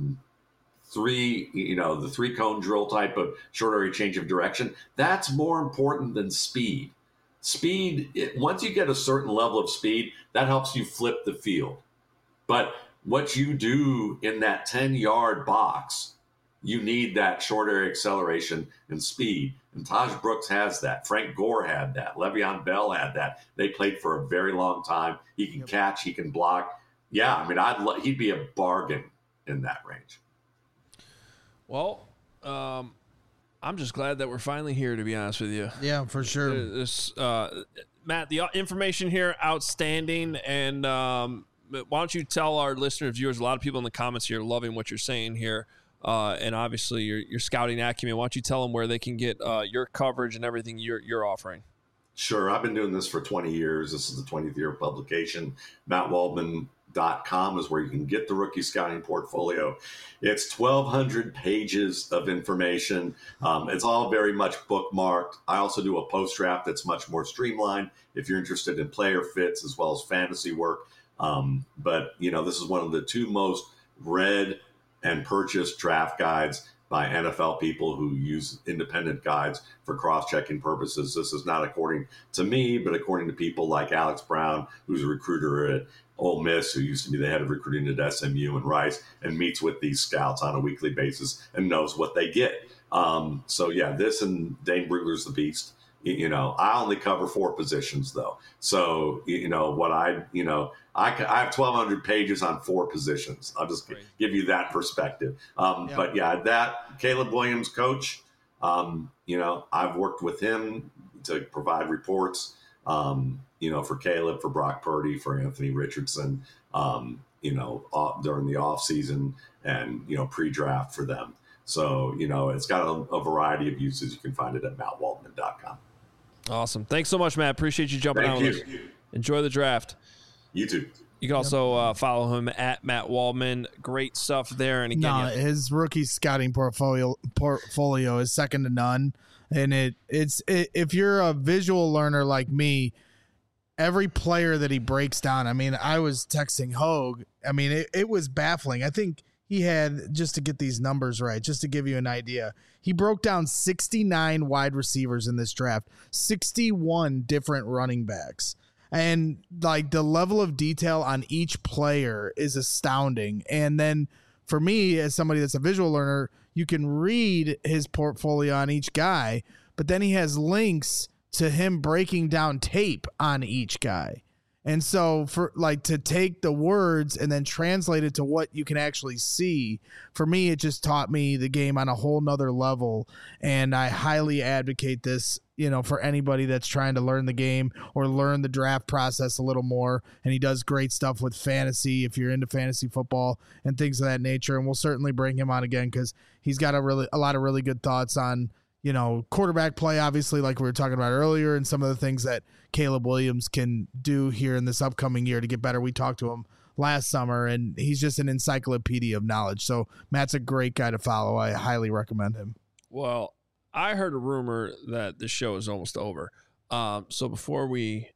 the three cone drill type of short area change of direction, that's more important than speed. Once you get a certain level of speed, that helps you flip the field. But what you do in that 10-yard box, you need that short area acceleration and speed. And Taj Brooks has that. Frank Gore had that. Le'Veon Bell had that. They played for a very long time. He can catch. He can block. Yeah, I mean, he'd be a bargain in that range. Well, I'm just glad that we're finally here, to be honest with you. Yeah, for sure. Matt, the information here, outstanding. And why don't you tell our listeners, viewers, a lot of people in the comments here loving what you're saying here. And obviously your scouting acumen. Why don't you tell them where they can get your coverage and everything you're offering? Sure. I've been doing this for 20 years. This is the 20th year of publication. MattWaldman.com is where you can get the rookie scouting portfolio. It's 1,200 pages of information. It's all very much bookmarked. I also do a post-draft that's much more streamlined if you're interested in player fits as well as fantasy work. But, this is one of the two most read and purchased draft guides by NFL people who use independent guides for cross-checking purposes. This is not according to me, but according to people like Alex Brown, who's a recruiter at Ole Miss, who used to be the head of recruiting at SMU and Rice, and meets with these scouts on a weekly basis and knows what they get. This and Dane Brugler's the beast. I only cover 4 positions though. So, I have 1,200 pages on 4 positions. I'll just give you that perspective. But that Caleb Williams, coach, I've worked with him to provide reports, for Caleb, for Brock Purdy, for Anthony Richardson, during the off season and, pre-draft for them. So, it's got a variety of uses. You can find it at MattWaldman.com. Awesome. Thanks so much, Matt. Appreciate you jumping on with us. Enjoy the draft. You too. You can also follow him at Matt Waldman. Great stuff there. And again, his rookie scouting portfolio is second to none. And if you're a visual learner like me, every player that he breaks down. I mean, I was texting Hogue. I mean, it was baffling. I think he had, just to get these numbers right, just to give you an idea, he broke down 69 wide receivers in this draft, 61 different running backs. And like the level of detail on each player is astounding. And then for me, as somebody that's a visual learner, you can read his portfolio on each guy, but then he has links to him breaking down tape on each guy. And so for to take the words and then translate it to what you can actually see, for me, it just taught me the game on a whole nother level. And I highly advocate this, for anybody that's trying to learn the game or learn the draft process a little more. And he does great stuff with fantasy if you're into fantasy football and things of that nature. And we'll certainly bring him on again because he's got a lot of really good thoughts on, quarterback play, obviously, like we were talking about earlier, and some of the things that Caleb Williams can do here in this upcoming year to get better. We talked to him last summer, and he's just an encyclopedia of knowledge. So Matt's a great guy to follow. I highly recommend him. Well, I heard a rumor that the show is almost over. So before we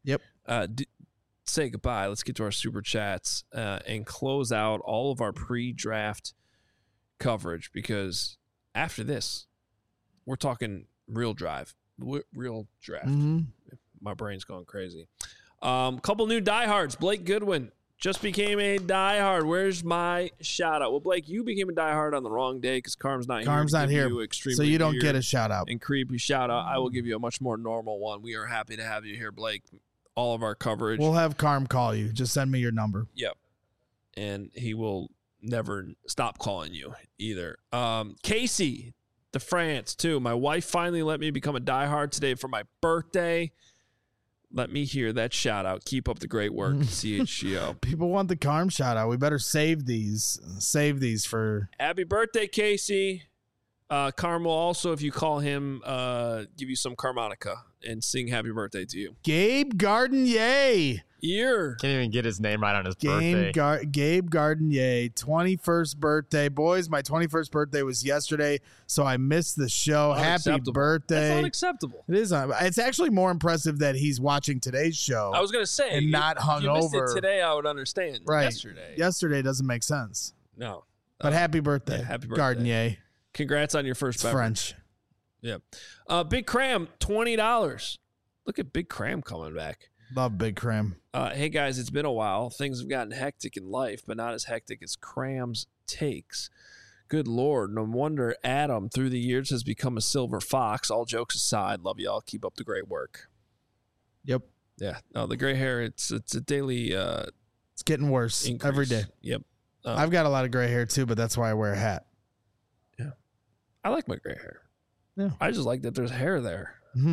say goodbye, let's get to our super chats and close out all of our pre-draft coverage, because after this, we're talking real draft. Mm-hmm. My brain's going crazy. Couple new diehards. Blake Goodwin just became a diehard. Where's my shout out? Well, Blake, you became a diehard on the wrong day because Carm's not here. So you don't get a shout out. And creepy shout out. I will give you a much more normal one. We are happy to have you here, Blake. All of our coverage. We'll have Carm call you. Just send me your number. Yep. And he will never stop calling you either. Casey, the France, too. My wife finally let me become a diehard today for my birthday. Let me hear that shout out. Keep up the great work, CHGO. People want the Carm shout out. We better save these. Save these for. Happy birthday, Casey. Carm will also, if you call him, give you some harmonica and sing happy birthday to you. Gabe Gardenier. Can't even get his name right on his birthday. Gabe Gardenier, 21st birthday. Boys, my 21st birthday was yesterday, so I missed the show. Happy birthday. That's unacceptable. It is. It's actually more impressive that he's watching today's show. I was going to say. And not hungover. If you missed it today, I would understand. Right. Yesterday. Yesterday doesn't make sense. No. But happy birthday. Yeah, happy birthday. Gardenier. Congrats on your first beverage. French. Yeah. Big Cram, $20. Look at Big Cram coming back. Love Big Cram. Hey, guys, it's been a while. Things have gotten hectic in life, but not as hectic as Cram's takes. Good Lord. No wonder Adam, through the years, has become a silver fox. All jokes aside, love y'all. Keep up the great work. Yep. Yeah. No, the gray hair, it's a daily it's getting worse increase. every day. Yep. I've got a lot of gray hair too, but that's why I wear a hat. Yeah. I like my gray hair. Yeah. I just like that there's hair there.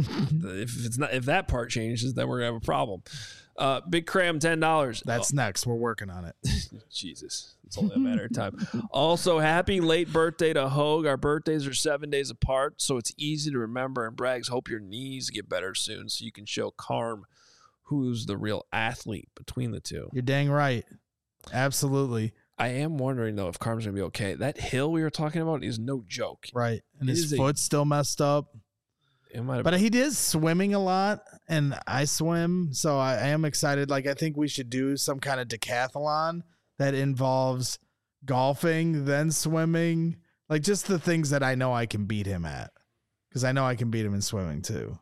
If that part changes, then we're gonna have a problem. Big Cram, $10. That's next. We're working on it. Jesus, it's only a matter of time. Also, happy late birthday to Hogue. Our birthdays are 7 days apart, so it's easy to remember. And Braggs, hope your knees get better soon, so you can show Carm who's the real athlete between the two. You're dang right. Absolutely. I am wondering though if Carm's gonna be okay. That hill we were talking about is no joke. Right, and his foot's still messed up. But he is swimming a lot, and I swim, so I am excited. Like, I think we should do some kind of decathlon that involves golfing, then swimming, like just the things that I know I can beat him at, because I know I can beat him in swimming too.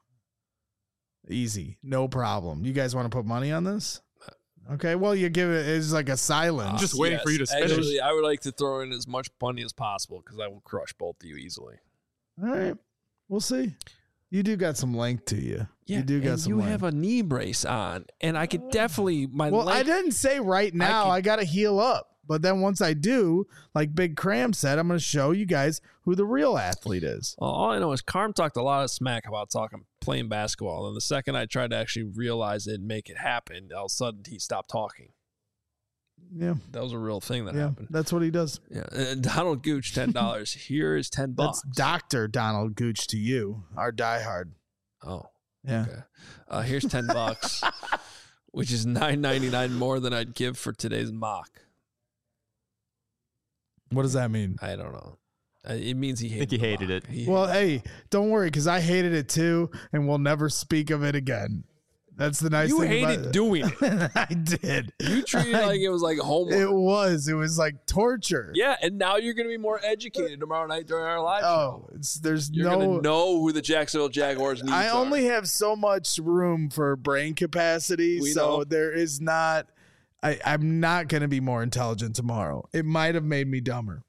Easy, no problem. You guys want to put money on this? Okay, well, you give it is like a silence. Just waiting for you to finish. Actually, I would like to throw in as much money as possible because I will crush both of you easily. All right, we'll see. You do got some length to you. Yeah, you do got some length. You have a knee brace on, and I could definitely I didn't say right now. I got to heal up, but then once I do, like Big Cram said, I'm going to show you guys who the real athlete is. Well, all I know is Carm talked a lot of smack about playing basketball, and the second I tried to actually realize it and make it happen, all of a sudden he stopped talking. Yeah, that was a real thing that happened. That's what he does. Yeah, Donald Gooch, $10. Here is $10. That's Dr. Donald Gooch to you, our diehard. Oh, yeah. Okay. Here's $10, which is $9.99 more than I'd give for today's mock. What does that mean? I don't know. It means he hated. I think he hated it. Well, hey, don't worry, because I hated it too, and we'll never speak of it again. That's the nice thing. You hated doing it. I did. You treated it like it was like homework. It was like torture. Yeah, and now you're going to be more educated tomorrow night during our live show. You're no. going to know who the Jacksonville Jaguars need. I only have so much room for brain capacity, so there is not. I'm not going to be more intelligent tomorrow. It might have made me dumber.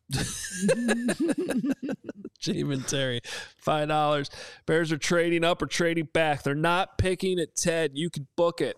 Jamie and Terry, $5. Bears are trading up or trading back. They're not picking at Ted. You can book it.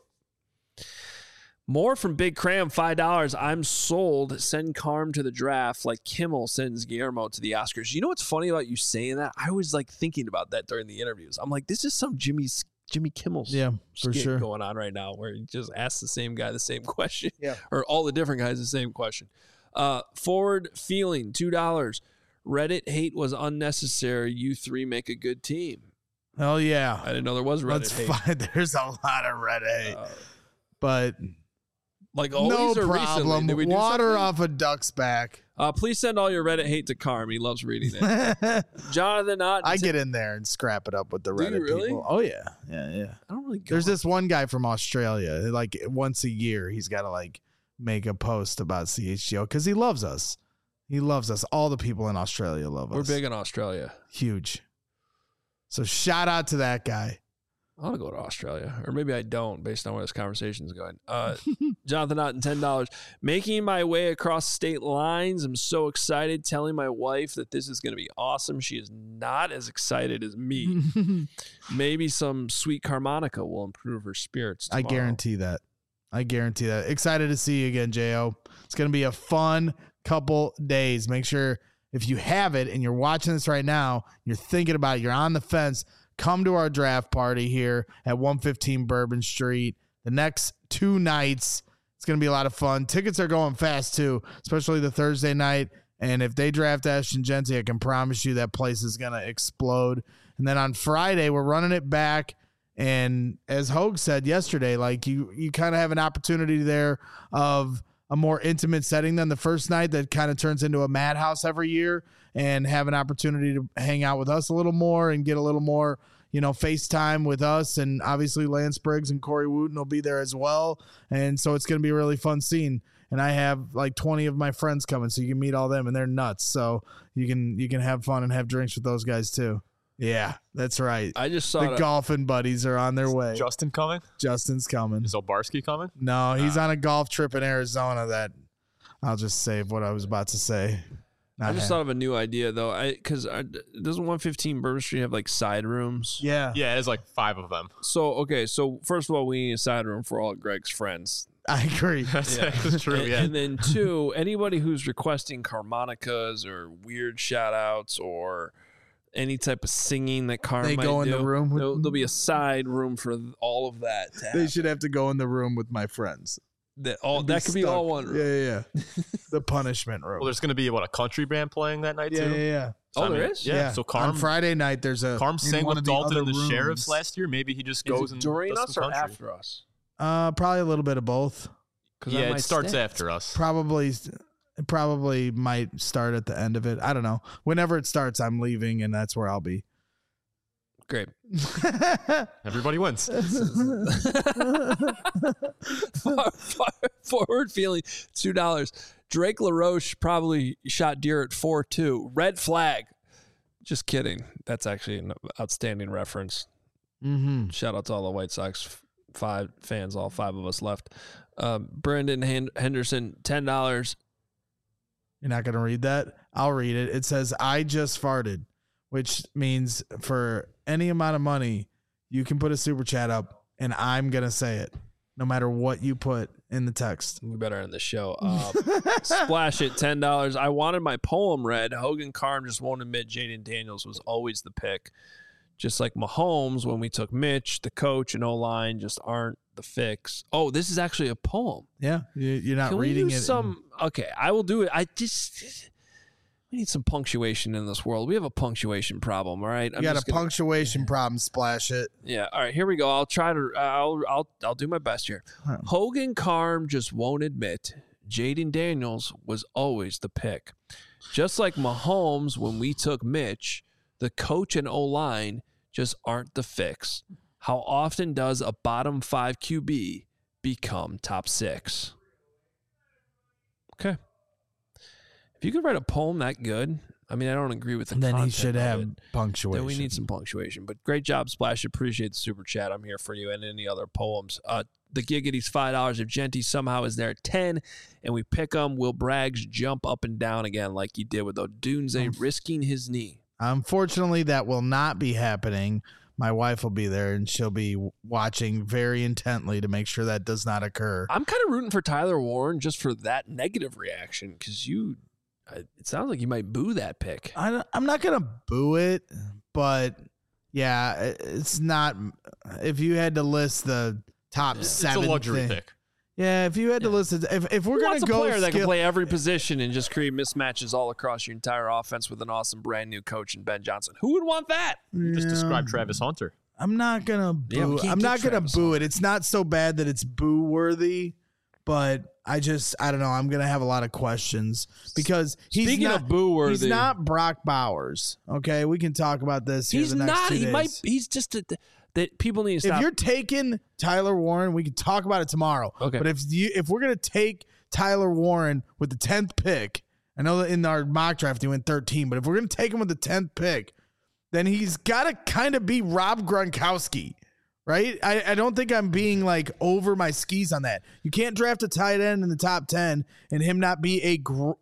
More from Big Cram, $5. I'm sold. Send Carm to the draft like Kimmel sends Guillermo to the Oscars. You know what's funny about you saying that? I was like thinking about that during the interviews. I'm like, this is some Jimmy Kimmel's for sure going on right now, where he just asks the same guy the same question. Yeah, or all the different guys the same question. Forward feeling, $2. Reddit hate was unnecessary. You three make a good team. Hell yeah. I didn't know there was Reddit hate. Fine. There's a lot of Reddit hate. But like always, no or problem. recently? Did we do Water something? off a duck's back. Please send all your Reddit hate to Carm. He loves reading it. Jonathan Ott. I get in there and scrap it up with the Reddit really? people. Oh, yeah. Yeah. I don't really go. There's this one guy from Australia. Like once a year, he's got to like make a post about CHGO because he loves us. He loves us. All the people in Australia love us. We're big in Australia. Huge. So shout out to that guy. I want to go to Australia, or maybe I don't, based on where this conversation is going. Jonathan Otten, $10. Making my way across state lines. I'm so excited. Telling my wife that this is going to be awesome. She is not as excited as me. Maybe some sweet harmonica will improve her spirits tomorrow. I guarantee that. Excited to see you again, J.O. It's going to be a fun couple days. Make sure if you have it and you're watching this right now, you're thinking about it, you're on the fence, come to our draft party here at 115 Bourbon Street. The next 2 nights, it's going to be a lot of fun. Tickets are going fast, too, especially the Thursday night. And if they draft Ashton Jeanty, I can promise you that place is going to explode. And then on Friday, we're running it back. And as Hogue said yesterday, like you kind of have an opportunity there of a more intimate setting than the first night that kind of turns into a madhouse every year, and have an opportunity to hang out with us a little more and get a little more, FaceTime with us, and obviously Lance Briggs and Corey Wooten will be there as well. And so it's going to be a really fun scene. And I have like 20 of my friends coming, so you can meet all them, and they're nuts. So you can have fun and have drinks with those guys too. Yeah, that's right. I just saw the golfing buddies are on their way. Justin coming? Justin's coming. Is Obarski coming? No, he's on a golf trip in Arizona that I'll just save what I was about to say. I just thought of a new idea though. Because doesn't 115 Bourbon Street have like side rooms? Yeah. Yeah, there's like 5 of them. So first of all, we need a side room for all of Greg's friends. I agree. That's true. Yeah. And then 2, anybody who's requesting harmonicas or weird shout outs or any type of singing that Carm might go in do, the room. There'll be a side room for all of that. They should have to go in the room with my friends. That could be all one room. Yeah. The punishment room. Well, there's going to be a country band playing that night too. Yeah. So, there is. Yeah. So Carm on Friday night there's a Carm sang with Dalton and the rooms. Sheriffs last year. Maybe he just goes and during does us some or country. after us. Probably a little bit of both. Yeah, it starts after us. Probably might start at the end of it. I don't know. Whenever it starts, I'm leaving, and that's where I'll be. Great. Everybody wins. Forward feeling, $2. Drake LaRoche probably shot deer at 4-2. Red flag. Just kidding. That's actually an outstanding reference. Mm-hmm. Shout out to all the White Sox 5 fans, all 5 of us left. Brendan Henderson, $10. You're not going to read that? I'll read it. It says, I just farted, which means for any amount of money, you can put a super chat up, and I'm going to say it, no matter what you put in the text. We better end the show. Splash it, $10. I wanted my poem read. Hogan Carm just won't admit Jaden Daniels was always the pick. Just like Mahomes, when we took Mitch, the coach and O-line just aren't the fix. Oh, this is actually a poem. Yeah, you're not Can reading we use it. Okay, I will do it. We need some punctuation in this world. We have a punctuation problem, all right? You got a punctuation problem, Splash it. Yeah, all right, here we go. I'll try to I'll do my best here. Huh. Hogan Carm just won't admit Jaden Daniels was always the pick. Just like Mahomes when we took Mitch, the coach and O-line just aren't the fix. How often does a bottom 5 QB become top 6? Okay. If you could write a poem that good, I mean, I don't agree with the Then he content should of have it. punctuation. Then we need some punctuation. But great job, Splash. Appreciate the super chat. I'm here for you and any other poems. The Giggity's $5. If Genty somehow is there at 10 and we pick him, will Braggs jump up and down again like he did with Odunze risking his knee? Unfortunately, that will not be happening. My wife will be there, and she'll be watching very intently to make sure that does not occur. I'm kind of rooting for Tyler Warren just for that negative reaction because it sounds like you might boo that pick. I'm not going to boo it, but yeah, it's not. If you had to list the top 7, it's a luxury pick. Yeah, if you had to list it, if we're going to go, a player that can play every position and just create mismatches all across your entire offense with an awesome brand new coach in Ben Johnson, who would want that? You just described Travis Hunter. I'm not gonna boo. Yeah, I'm not gonna boo it. It's not so bad that it's boo worthy, but I don't know. I'm gonna have a lot of questions because Speaking of boo worthy, he's not Brock Bowers. Okay, we can talk about this. He's the next not. 2 He days. might. He's just that people need to stop. If you're taking Tyler Warren, we can talk about it tomorrow. Okay. But if we're gonna take Tyler Warren with the 10th pick, I know that in our mock draft he went 13, but if we're gonna take him with the 10th pick, then he's got to kind of be Rob Gronkowski, right? I don't think I'm being like over my skis on that. You can't draft a tight end in the top 10 and him not be a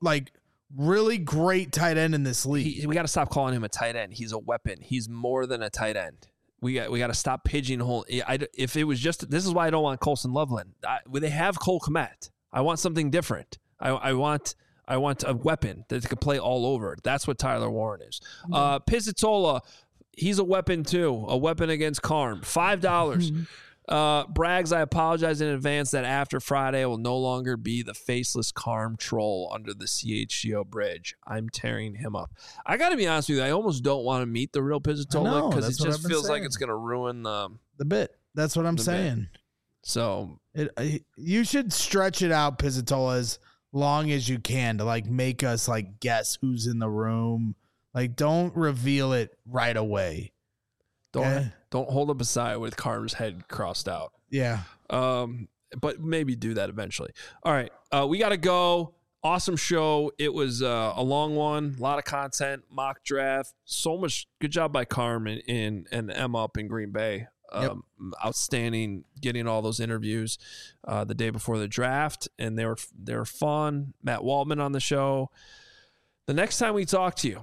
really great tight end in this league. We got to stop calling him a tight end. He's a weapon. He's more than a tight end. We got to stop pigeonholing. If it was just, this is why I don't want Colson Loveland. They have Cole Kmet. I want something different. I want a weapon that can play all over. That's what Tyler Warren is. Pizzatola, he's a weapon too. A weapon against Carm. $5. Braggs, I apologize in advance that after Friday I will no longer be the faceless Carm troll under the CHGO bridge. I'm tearing him up. I got to be honest with you. I almost don't want to meet the real Pizzatola because it just feels like it's going to ruin the bit. That's what I'm saying. Bit. So you should stretch it out, Pizzatola, as long as you can to make us guess who's in the room. Don't reveal it right away. Don't hold up a sign with Carm's head crossed out. Yeah. But maybe do that eventually. All right. We got to go. Awesome show. It was a long one. A lot of content. Mock draft. So much. Good job by Carm and Emma up in Green Bay. Outstanding getting all those interviews the day before the draft, and they were fun. Matt Waldman on the show. The next time we talk to you,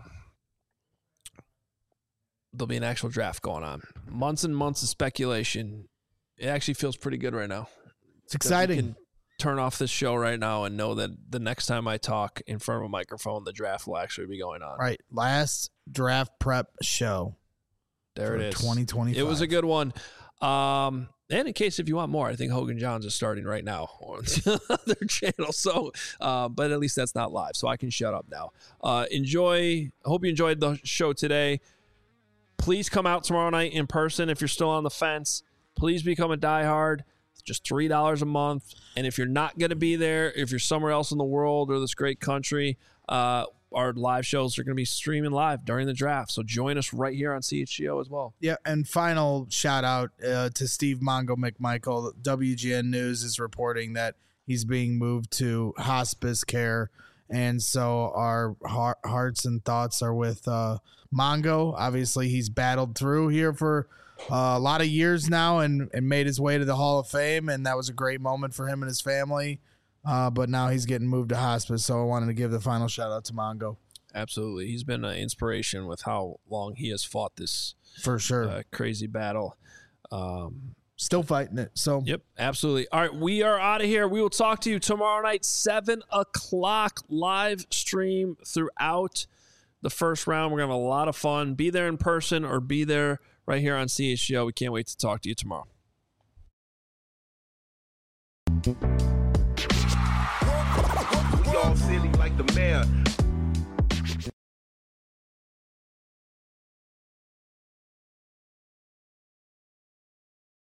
there'll be an actual draft going on. Months and months of speculation. It actually feels pretty good right now. It's exciting. We can turn off this show right now and know that the next time I talk in front of a microphone, the draft will actually be going on. Right. Last draft prep show. There it is. 2025. It was a good one. And in case if you want more, I think Hogan Johns is starting right now on their channel. So, but at least that's not live, so I can shut up now. I hope you enjoyed the show today. Please come out tomorrow night in person if you're still on the fence. Please become a diehard. It's just $3 a month. And if you're not going to be there, if you're somewhere else in the world or this great country, our live shows are going to be streaming live during the draft. So join us right here on CHGO as well. Yeah, and final shout out to Steve Mongo McMichael. WGN News is reporting that he's being moved to hospice care. And so our hearts and thoughts are with Mongo. Obviously, he's battled through here for a lot of years now and made his way to the Hall of Fame. And that was a great moment for him and his family. But now he's getting moved to hospice, so I wanted to give the final shout-out to Mongo. Absolutely. He's been an inspiration with how long he has fought this for sure crazy battle. Still fighting it. So yep, absolutely. All right, we are out of here. We will talk to you tomorrow night, 7 o'clock, live stream throughout the first round. We're going to have a lot of fun. Be there in person or be there right here on CHGO. We can't wait to talk to you tomorrow. Y'all silly like the mayor.